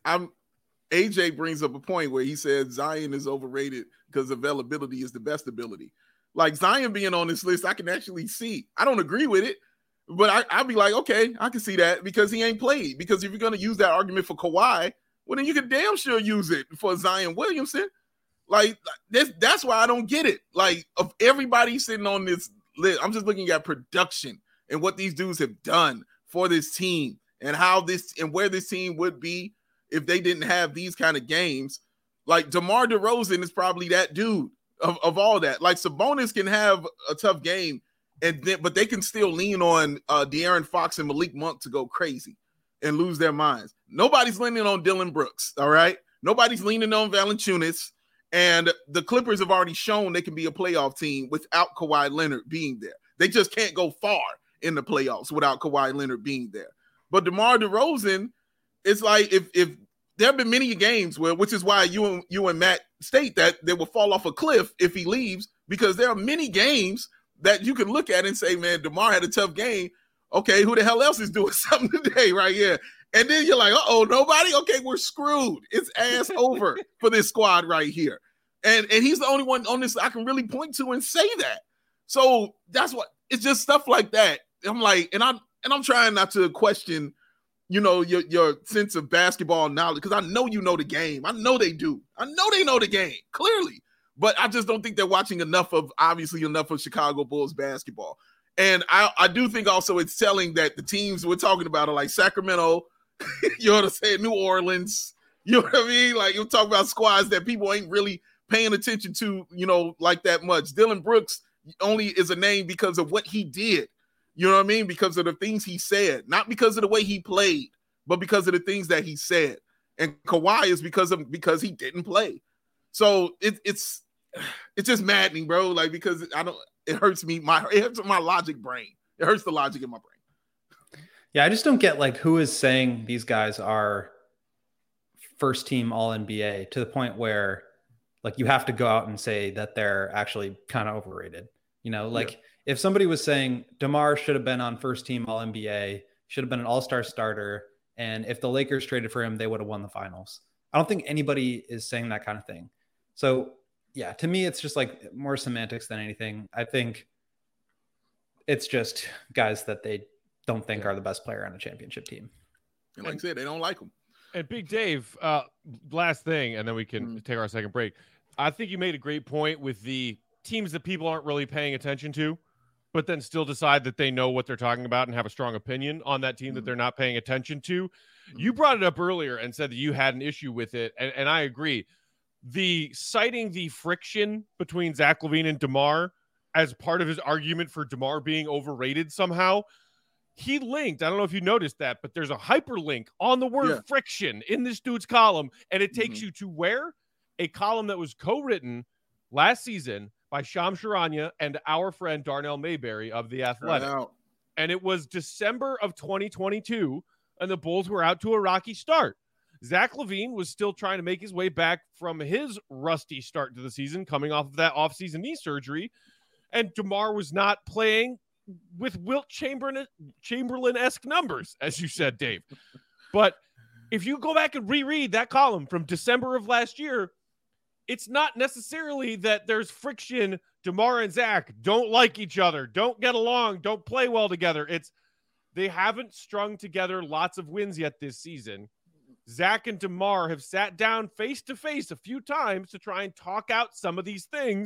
AJ brings up a point where he said Zion is overrated because availability is the best ability. Like Zion being on this list, I can actually see. I don't agree with it, but I'd be like, okay, I can see that because he ain't played. Because if you're going to use that argument for Kawhi, well, then you can damn sure use it for Zion Williamson. Like, that's why I don't get it. Like, of everybody sitting on this list, I'm just looking at production and what these dudes have done for this team and how this and where this team would be if they didn't have these kind of games. Like, DeMar DeRozan is probably that dude of all that. Like, Sabonis can have a tough game, but they can still lean on De'Aaron Fox and Malik Monk to go crazy and lose their minds. Nobody's leaning on Dillon Brooks, all right? Nobody's leaning on Valanciunas. And the Clippers have already shown they can be a playoff team without Kawhi Leonard being there. They just can't go far in the playoffs without Kawhi Leonard being there. But DeMar DeRozan, it's like if there have been many games which is why you and Matt state that they will fall off a cliff if he leaves, because there are many games that you can look at and say, man, DeMar had a tough game. Okay, who the hell else is doing something today right here? And then you're like, uh-oh, nobody? Okay, we're screwed. It's ass over for this squad right here. And he's the only one on this I can really point to and say that. So that's what it's just stuff like that. I'm like, and I'm trying not to question, your sense of basketball knowledge, because I know you know the game. I know they do. I know they know the game, clearly. But I just don't think they're watching enough of Chicago Bulls basketball. And I do think also it's telling that the teams we're talking about are like Sacramento, you know what I'm saying, New Orleans, you know what I mean? Like, you're talking about squads that people ain't really paying attention to, like that much. Dillon Brooks only is a name because of what he did, you know what I mean? Because of the things he said, not because of the way he played, but because of the things that he said. And Kawhi is because he didn't play. So it's just maddening, bro. Like, because it hurts me. It hurts my logic brain. It hurts the logic in my brain. Yeah, I just don't get like who is saying these guys are first team all NBA to the point where like you have to go out and say that they're actually kind of overrated. If somebody was saying DeMar should have been on first team all NBA, should have been an all-star starter, and if the Lakers traded for him, they would have won the finals. I don't think anybody is saying that kind of thing. So yeah, to me, it's just like more semantics than anything. I think it's just guys that they don't think are the best player on a championship team. And like I said, they don't like them. And Big Dave, last thing, and then we can take our second break. I think you made a great point with the teams that people aren't really paying attention to, but then still decide that they know what they're talking about and have a strong opinion on that team that they're not paying attention to. You brought it up earlier and said that you had an issue with it, and I agree. Citing the friction between Zach LaVine and DeMar as part of his argument for DeMar being overrated somehow, he linked, I don't know if you noticed that, but there's a hyperlink on the word friction in this dude's column, and it takes you to where? A column that was co-written last season by Shams Charania and our friend Darnell Mayberry of The Athletic. And it was December of 2022, and the Bulls were out to a rocky start. Zach LaVine was still trying to make his way back from his rusty start to the season, coming off of that offseason knee surgery, and DeMar was not playing with Wilt Chamberlain-esque numbers, as you said, Dave. But if you go back and reread that column from December of last year, it's not necessarily that there's friction. DeMar and Zach don't like each other, don't get along, don't play well together. It's they haven't strung together lots of wins yet this season. Zach and DeMar have sat down face to face a few times to try and talk out some of these things,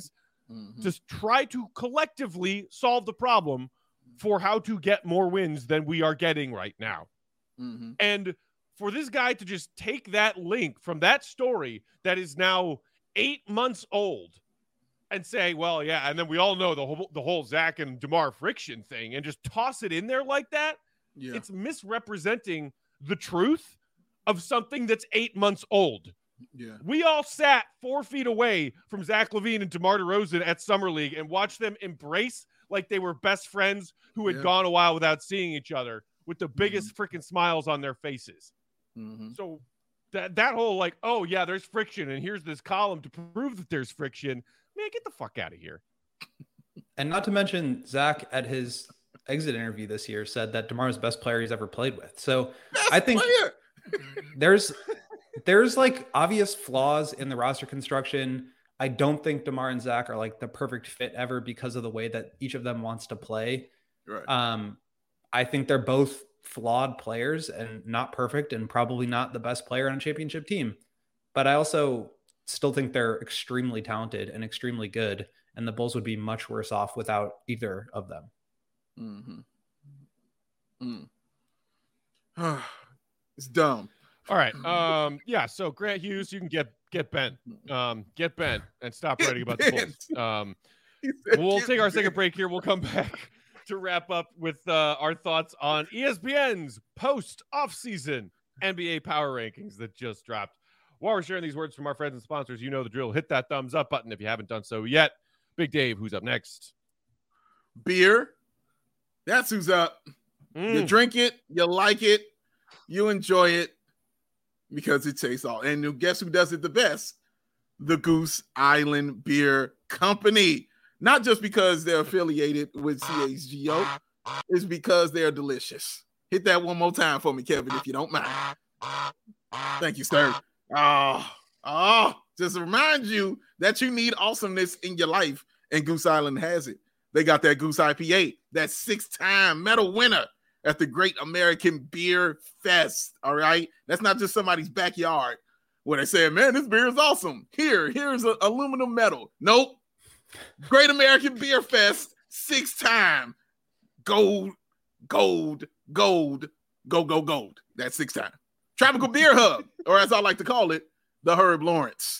Just try to collectively solve the problem for how to get more wins than we are getting right now. And for this guy to just take that link from that story that is now 8 months old and say, well, yeah, and then we all know the whole Zach and DeMar friction thing, and just toss it in there like that, it's misrepresenting the truth of something that's 8 months old. Yeah. We all sat 4 feet away from Zach LaVine and DeMar DeRozan at Summer League and watched them embrace like they were best friends who had gone a while without seeing each other with the biggest freaking smiles on their faces. So that whole like, oh, yeah, there's friction, and here's this column to prove that there's friction. Man, get the fuck out of here. And not to mention, Zach, at his exit interview this year, said that DeMar's the best player he's ever played with. So I think there's like obvious flaws in the roster construction. I don't think DeMar and Zach are like the perfect fit ever because of the way that each of them wants to play. Right. I think they're both flawed players and not perfect, and probably not the best player on a championship team. But I also still think they're extremely talented and extremely good, and the Bulls would be much worse off without either of them. It's dumb. All right. Yeah. So Grant Hughes, you can get bent. Get bent and stop writing about the Bulls. We'll take our second break here. We'll come back to wrap up with our thoughts on ESPN's post-offseason NBA power rankings that just dropped. While we're sharing these words from our friends and sponsors, you know the drill. Hit that thumbs up button if you haven't done so yet. Big Dave, who's up next? Beer. That's who's up. You drink it, you like it, you enjoy it because it tastes all. And guess who does it the best? The Goose Island Beer Company. Not just because they're affiliated with CHGO, it's because they're delicious. Hit that one more time for me, Kevin, if you don't mind. Thank you, sir. Just to remind you that you need awesomeness in your life, and Goose Island has it. They got that Goose IPA, that 6-time medal winner at the Great American Beer Fest, all right? That's not just somebody's backyard where they say, man, this beer is awesome. Here's an aluminum medal. Nope. Great American Beer Fest, 6-time gold. That's 6 times. Tropical Beer Hub, or as I like to call it, the Herb Lawrence.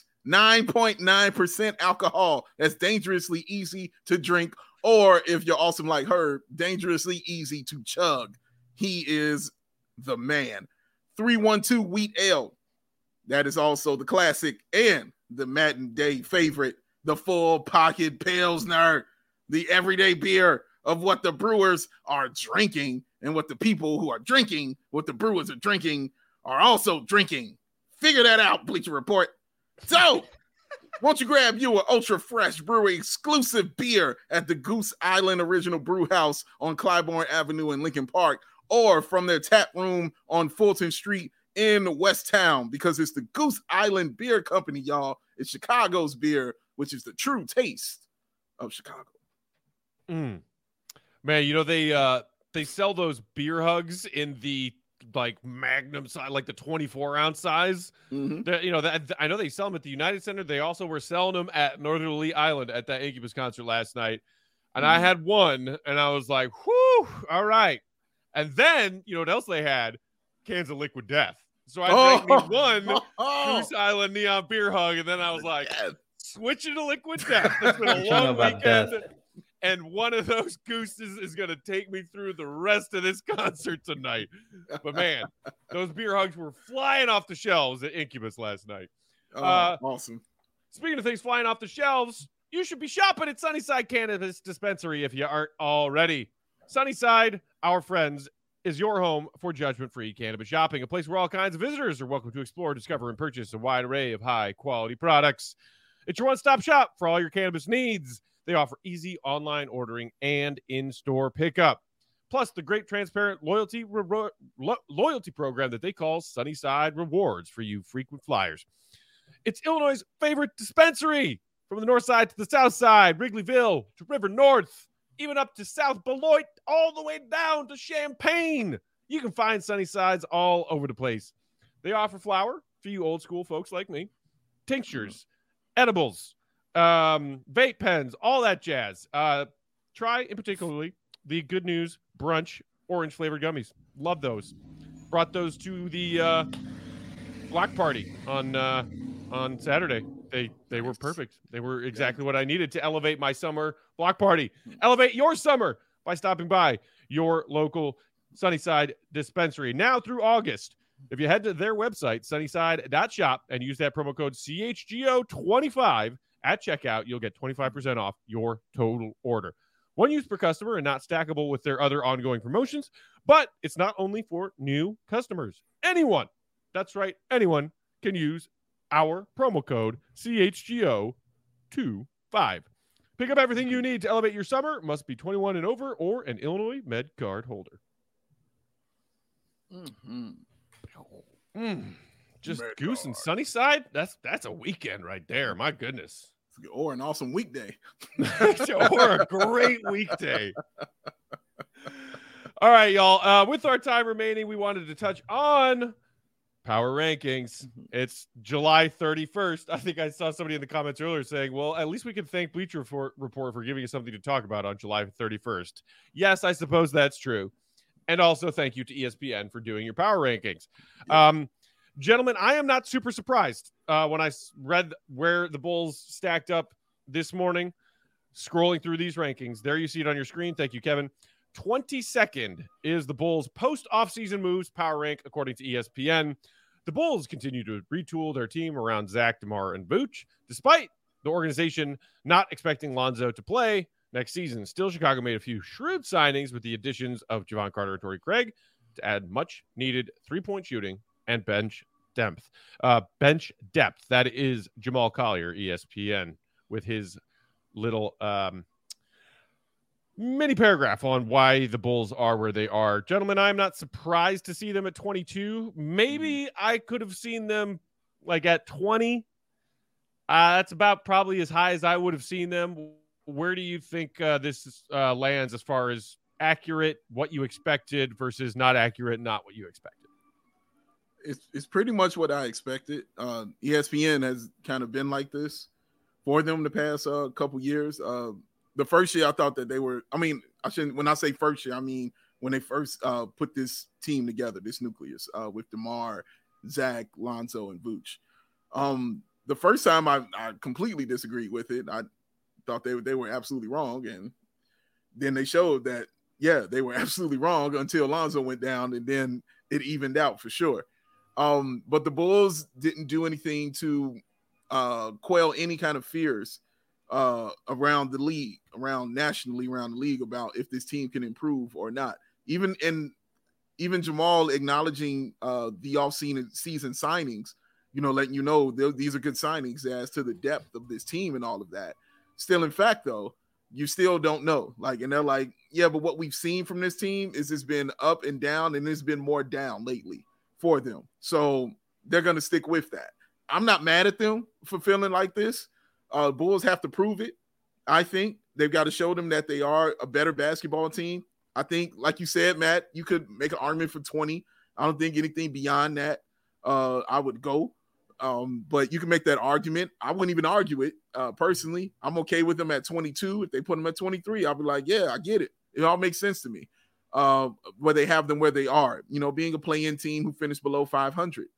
9.9% alcohol. That's dangerously easy to drink, or if you're awesome like Herb, dangerously easy to chug. He is the man. 312 Wheat Ale. That is also the classic and the Madden Day favorite, the Full Pocket Pilsner, the everyday beer of what the brewers are drinking, and what the people who are drinking what the brewers are drinking are also drinking. Figure that out, Bleacher Report. So, won't you grab you an ultra fresh brewery exclusive beer at the Goose Island Original Brew House on Clybourne Avenue in Lincoln Park, or from their tap room on Fulton Street in West Town, because it's the Goose Island Beer Company, y'all. It's Chicago's beer, which is the true taste of Chicago. Man, you know, they sell those beer hugs in the like magnum size, like the 24-ounce size. You know, that I know they sell them at the United Center. They also were selling them at Northerly Island at that Incubus concert last night. And I had one, and I was like, whew, all right. And then, you know what else they had? Cans of Liquid Death. So I drank me one Goose Island Neon Beer Hug, and then I was like, switching to Liquid Death. It's been a long weekend. And one of those gooses is going to take me through the rest of this concert tonight. But, man, those beer hugs were flying off the shelves at Incubus last night. Awesome. Speaking of things flying off the shelves, you should be shopping at Sunnyside Cannabis Dispensary if you aren't already. Sunnyside, our friends, is your home for judgment-free cannabis shopping, a place where all kinds of visitors are welcome to explore, discover, and purchase a wide array of high-quality products. It's your one-stop shop for all your cannabis needs. They offer easy online ordering and in-store pickup. Plus, the great transparent loyalty program that they call Sunnyside Rewards for you frequent flyers. It's Illinois' favorite dispensary. From the north side to the south side, Wrigleyville to River North, even up to South Beloit, all the way down to Champaign. You can find Sunnysides all over the place. They offer flower for you old school folks like me, tinctures, edibles, vape pens, all that jazz. Try in particularly the Good News Brunch orange flavored gummies. Love those. Brought those to the block party on Saturday. They were perfect. They were exactly what I needed to elevate my summer block party. Elevate your summer by stopping by your local Sunnyside dispensary. Now through August, if you head to their website, sunnyside.shop, and use that promo code CHGO25 at checkout, you'll get 25% off your total order. One use per customer and not stackable with their other ongoing promotions, but it's not only for new customers. Anyone, that's right, anyone can use our promo code CHGO25. Pick up everything you need to elevate your summer. Must be 21 and over or an Illinois Med card holder. Just Med Goose card. and Sunnyside? That's a weekend right there. My goodness. Or an awesome weekday. Or a great weekday. All right, y'all. With our time remaining, we wanted to touch on power rankings. It's July 31st. I think I saw somebody in the comments earlier saying, well, at least we can thank Bleacher Report for giving us something to talk about on July 31st. Yes, I suppose that's true. And also thank you to ESPN for doing your power rankings. Gentlemen, I am not super surprised when I read where the Bulls stacked up this morning, scrolling through these rankings. There you see it on your screen. Thank you, Kevin. 22nd is the Bulls' post-offseason moves power rank, according to ESPN. The Bulls continue to retool their team around Zach, DeMar, and Vooch, despite the organization not expecting Lonzo to play next season. Still, Chicago made a few shrewd signings with the additions of Javon Carter and Torrey Craig to add much-needed three-point shooting and bench depth. That is Jamal Collier, ESPN, with his little mini paragraph on why the Bulls are where they are. Gentlemen, I'm not surprised to see them at 22. Maybe I could have seen them like at 20. That's about probably as high as I would have seen them. Where do you think this lands as far as accurate, what you expected versus not accurate, not what you expected? It's pretty much what I expected. ESPN has kind of been like this for them the past couple years. The first year I thought that they were, when I say first year, I mean when they first put this team together, this nucleus with DeMar, Zach, Lonzo, and Vooch. The first time I completely disagreed with it. I thought they were absolutely wrong. And then they showed that, yeah, they were absolutely wrong until Lonzo went down, and then it evened out for sure. But the Bulls didn't do anything to quell any kind of fears around the league, nationally around the league about if this team can improve or not. Even Jamal acknowledging the off-season signings, letting you know these are good signings as to the depth of this team and all of that. Still, in fact, though, you still don't know. And they're like, yeah, but what we've seen from this team is it's been up and down, and it's been more down lately for them. So they're going to stick with that. I'm not mad at them for feeling like this. Bulls have to prove it. I think they've got to show them that they are a better basketball team. I think, like you said, Matt, you could make an argument for 20. I don't think anything beyond that I would go. But you can make that argument. I wouldn't even argue it personally. I'm okay with them at 22. If they put them at 23, I'll be like, yeah, I get it. It all makes sense to me. Where they have them where they are, being a play-in team who finished below 500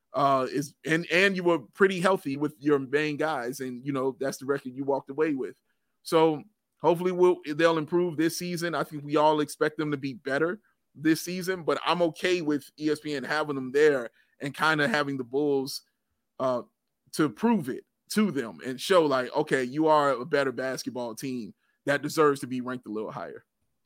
and you were pretty healthy with your main guys, and that's the record you walked away with. So hopefully they'll improve this season. I think we all expect them to be better this season, but I'm okay with ESPN having them there and kind of having the Bulls to prove it to them and show like, okay, you are a better basketball team that deserves to be ranked a little higher.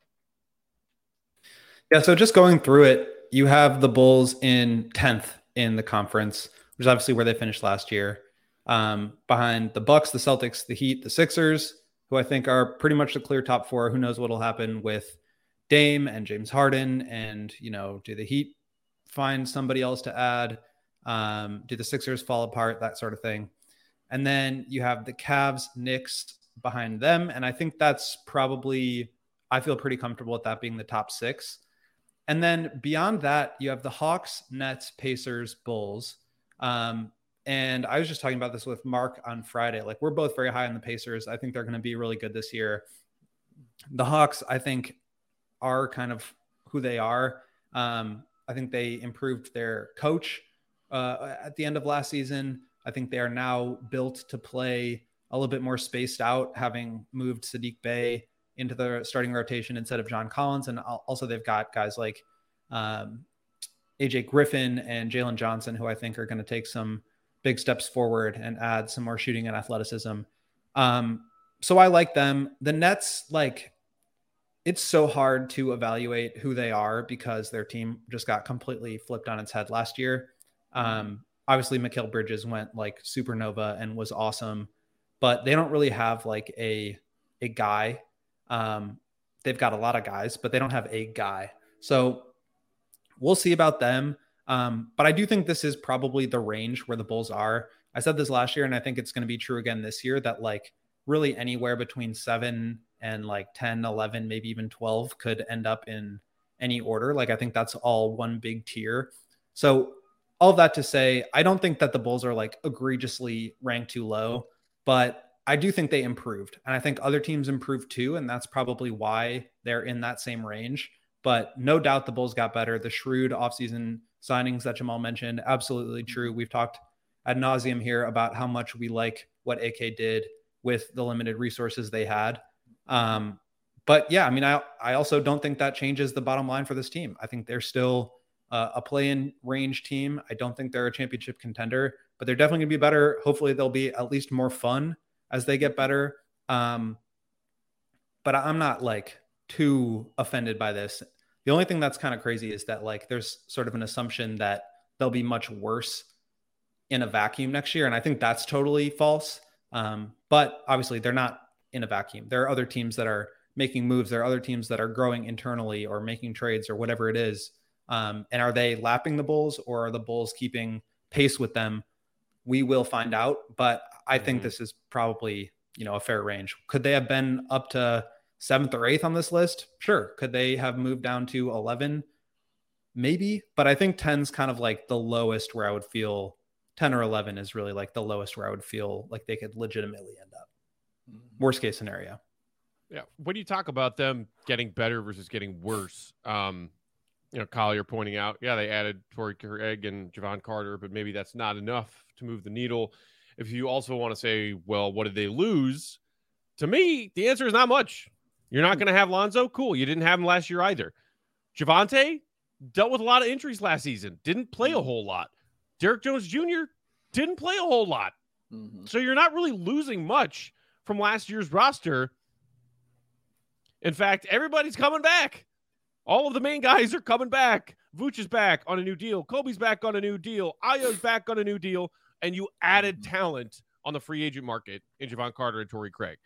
Yeah, so just going through it, you have the Bulls in 10th in the conference, which is obviously where they finished last year. Behind the Bucks, the Celtics, the Heat, the Sixers, who I think are pretty much the clear top four. Who knows what will happen with Dame and James Harden, and do the Heat find somebody else to add? Do the Sixers fall apart? That sort of thing. And then you have the Cavs, Knicks behind them, and I think that's probably, I feel pretty comfortable with that being the top six. And then beyond that, you have the Hawks, Nets, Pacers, Bulls. And I was just talking about this with Mark on Friday. Like, we're both very high on the Pacers. I think they're going to be really good this year. The Hawks, I think, are kind of who they are. I think they improved their coach at the end of last season. I think they are now built to play a little bit more spaced out, having moved Sadiq Bey into the starting rotation instead of John Collins. And also they've got guys like AJ Griffin and Jalen Johnson, who I think are going to take some big steps forward and add some more shooting and athleticism. So I like them. The Nets, like, it's so hard to evaluate who they are because their team just got completely flipped on its head last year. Obviously Mikal Bridges went like supernova and was awesome, but they don't really have like a guy. They've got a lot of guys, but they don't have a guy. So we'll see about them. But I do think this is probably the range where the Bulls are. I said this last year, and I think it's going to be true again this year, that like really anywhere between 7 and like 10, 11, maybe even 12 could end up in any order. Like, I think that's all one big tier. So all of that to say, I don't think that the Bulls are like egregiously ranked too low, but I do think they improved. And I think other teams improved too. And that's probably why they're in that same range. But no doubt the Bulls got better. The shrewd offseason signings that Jamal mentioned, absolutely true. We've talked ad nauseum here about how much we like what AK did with the limited resources they had. But yeah, I mean, I also don't think that changes the bottom line for this team. I think they're still a play-in range team. I don't think they're a championship contender, but they're definitely gonna be better. Hopefully they'll be at least more fun as they get better. But I'm not like too offended by this. The only thing that's kind of crazy is that like there's sort of an assumption that they'll be much worse in a vacuum next year. And I think that's totally false. But obviously they're not in a vacuum. There are other teams that are making moves. There are other teams that are growing internally or making trades or whatever it is. And are they lapping the Bulls, or are the Bulls keeping pace with them? We will find out. But I think this is probably, a fair range. Could they have been up to 7th or 8th on this list? Sure. Could they have moved down to 11? Maybe. But I think 10's kind of like the lowest where I would feel 10 or 11 is really like the lowest where I would feel like they could legitimately end up. Worst case scenario. Yeah. When you talk about them getting better versus getting worse, Collier pointing out, they added Torrey Craig and Javon Carter, but maybe that's not enough to move the needle. If you also want to say, well, what did they lose? To me, the answer is not much. You're not going to have Lonzo. Cool. You didn't have him last year either. Javonte dealt with a lot of injuries last season. Didn't play a whole lot. Derek Jones Jr. didn't play a whole lot. So you're not really losing much from last year's roster. In fact, everybody's coming back. All of the main guys are coming back. Vooch is back on a new deal. Kobe's back on a new deal. Ayo's back on a new deal. And you added talent on the free agent market in Javon Carter and Torrey Craig.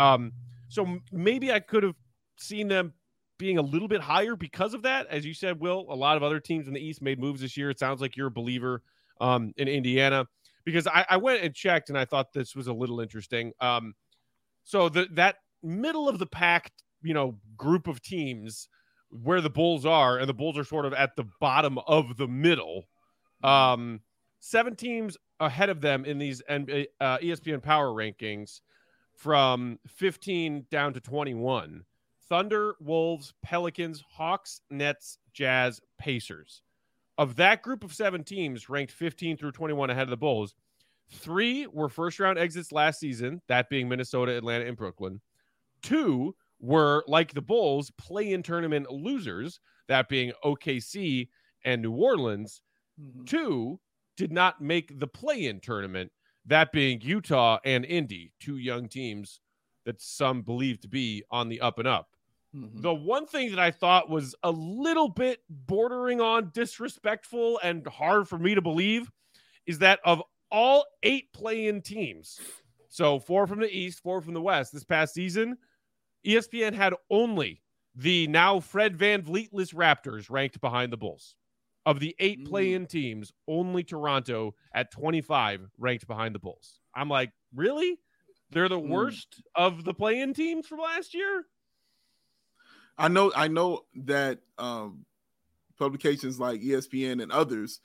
So maybe I could have seen them being a little bit higher because of that. As you said, Will, a lot of other teams in the East made moves this year. It sounds like you're a believer in Indiana, because I went and checked and I thought this was a little interesting. So that middle of the pack, group of teams where the Bulls are, and the Bulls are sort of at the bottom of the middle. 7 teams ahead of them in these ESPN Power Rankings from 15 down to 21. Thunder, Wolves, Pelicans, Hawks, Nets, Jazz, Pacers. Of that group of 7 teams ranked 15 through 21 ahead of the Bulls, 3 were first-round exits last season, that being Minnesota, Atlanta, and Brooklyn. 2 were, like the Bulls, play-in tournament losers, that being OKC and New Orleans. 2 did not make the play-in tournament, that being Utah and Indy, 2 young teams that some believe to be on the up and up. The one thing that I thought was a little bit bordering on disrespectful and hard for me to believe is that of all 8 play-in teams, so 4 from the East, 4 from the West, this past season, ESPN had only the now Fred VanVleet-less Raptors ranked behind the Bulls. Of the 8 play-in teams, only Toronto at 25 ranked behind the Bulls. I'm like, really? They're the worst of the play-in teams from last year? I know that publications like ESPN and others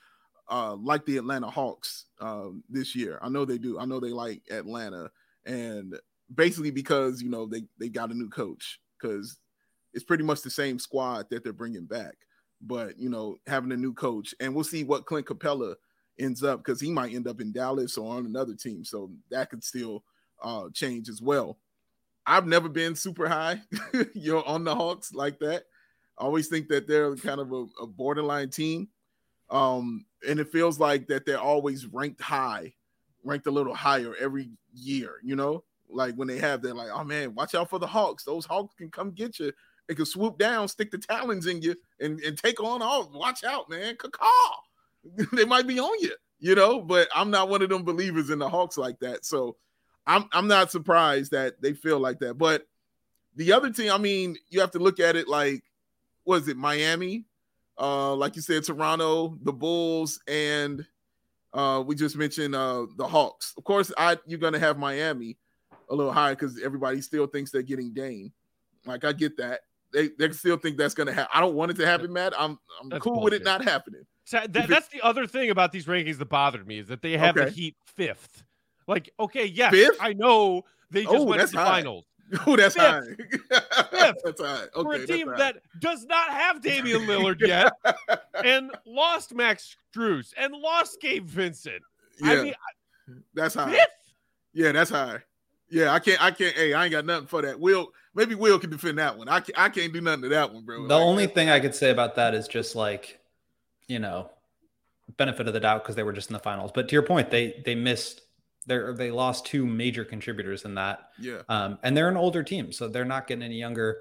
like the Atlanta Hawks this year. I know they do. I know they like Atlanta, and basically because they got a new coach, because it's pretty much the same squad that they're bringing back, but having a new coach, and we'll see what Clint Capella ends up, because he might end up in Dallas or on another team, so that could still change as well. I've never been super high on the Hawks like that. I always think that they're kind of a borderline team. And it feels like that they're always ranked a little higher every year, like when they're like, oh man, watch out for the Hawks. Those Hawks can come get you. They can swoop down, stick the talons in you and take on all. Watch out, man. Caw. They might be on you, but I'm not one of them believers in the Hawks like that. So I'm not surprised that they feel like that. But the other team, I mean, you have to look at it like, was it Miami? Like you said, Toronto, the Bulls, and we just mentioned the Hawks. Of course, you're going to have Miami a little higher because everybody still thinks they're getting Dame. Like, I get that. They still think that's going to happen. I don't want it to happen, Matt. I'm cool with it not happening. So that's the other thing about these rankings that bothered me, is that they have the Heat 5th. Like, okay, yes, 5th? I know they just went to the finals. Oh, that's high. That's high. Okay, for a team that does not have Damian Lillard yet, and lost Max Strus, and lost Gabe Vincent. Yeah, I mean, that's high. 5th? Yeah, that's high. Yeah, I can't. Hey, I ain't got nothing for that. Maybe Will can defend that one. I can't do nothing to that one, bro. The only thing I could say about that is just like, benefit of the doubt because they were just in the finals. But to your point, they missed. They lost 2 major contributors in that. Yeah. And they're an older team, so they're not getting any younger.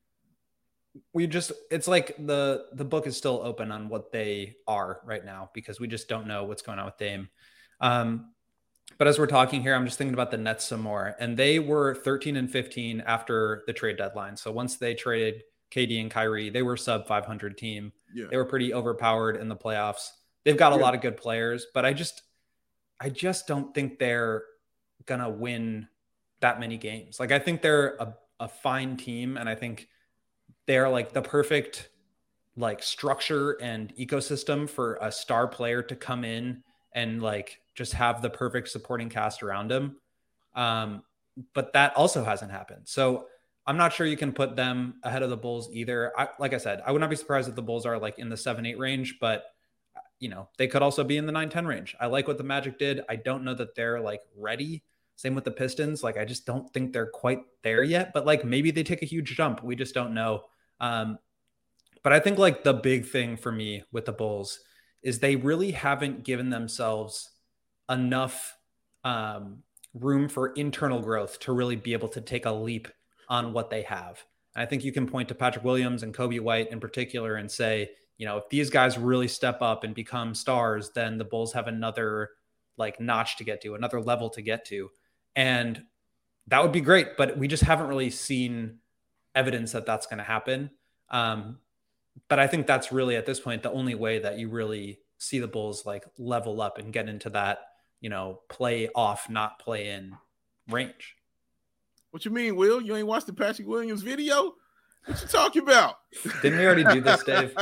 It's like the book is still open on what they are right now, because we just don't know what's going on with Dame. But as we're talking here, I'm just thinking about the Nets some more, and they were 13-15 after the trade deadline. So once they traded KD and Kyrie, they were sub 500 team. Yeah. They were pretty overpowered in the playoffs. They've got a lot of good players, but I just don't think they're going to win that many games. Like, I think they're a fine team, and I think they're like the perfect like structure and ecosystem for a star player to come in and like just have the perfect supporting cast around him. But that also hasn't happened. So I'm not sure you can put them ahead of the Bulls either. Like I said, I would not be surprised if the Bulls are like in the 7-8 range, but they could also be in the 9-10 range. I like what the Magic did. I don't know that they're like ready. Same with the Pistons. Like, I just don't think they're quite there yet, but like maybe they take a huge jump. We just don't know. But I think like the big thing for me with the Bulls is they really haven't given themselves enough room for internal growth to really be able to take a leap on what they have. And I think you can point to Patrick Williams and Kobe White in particular and say, if these guys really step up and become stars, then the Bulls have another like notch to get to, another level to get to. And that would be great, but we just haven't really seen evidence that that's going to happen. But I think that's really at this point, the only way that you really see the Bulls like level up and get into that, play off, not play in range. What you mean, Will? You ain't watched the Patrick Williams video? What you talking about? Didn't we already do this, Dave?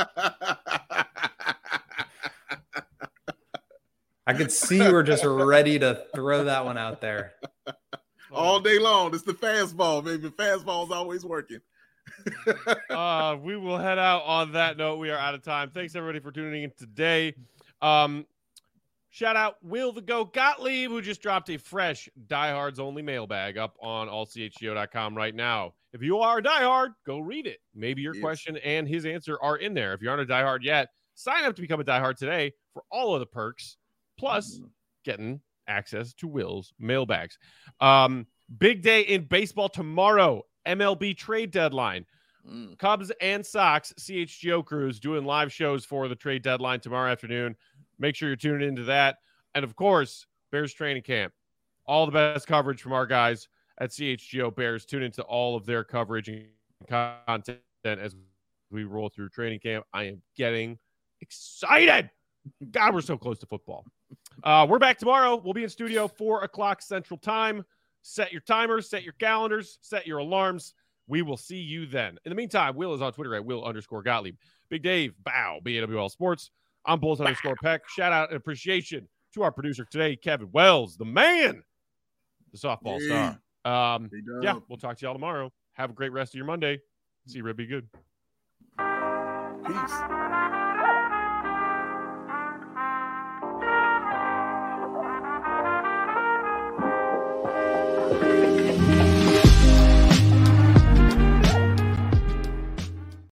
I could see you were just ready to throw that one out there. All day long. It's the fastball, baby. Fastball's always working. We will head out on that note. We are out of time. Thanks, everybody, for tuning in today. Shout out Will the Go Gottlieb, who just dropped a fresh Diehards Only mailbag up on allchgo.com right now. If you are a diehard, go read it. Maybe your question and his answer are in there. If you aren't a diehard yet, sign up to become a diehard today for all of the perks, plus getting access to Will's mailbags. Big day in baseball tomorrow. MLB trade deadline. Cubs and Sox CHGO crews doing live shows for the trade deadline tomorrow afternoon. Make sure you're tuning into that. And of course, Bears training camp. All the best coverage from our guys at CHGO Bears. Tune into all of their coverage and content as we roll through training camp. I am getting excited. God, we're so close to football. We're back tomorrow. We'll be in studio 4 o'clock Central Time. Set your timers, set your calendars, set your alarms. We will see you then. In the meantime, Will is on Twitter at Will_Gottlieb. Big Dave, bow, BAWL Sports. I'm Bulls_Peck. Shout out and appreciation to our producer today, Kevin Wells, the man, the softball star. Yeah, we'll talk to y'all tomorrow. Have a great rest of your Monday. See you, Rib. Be good. Peace.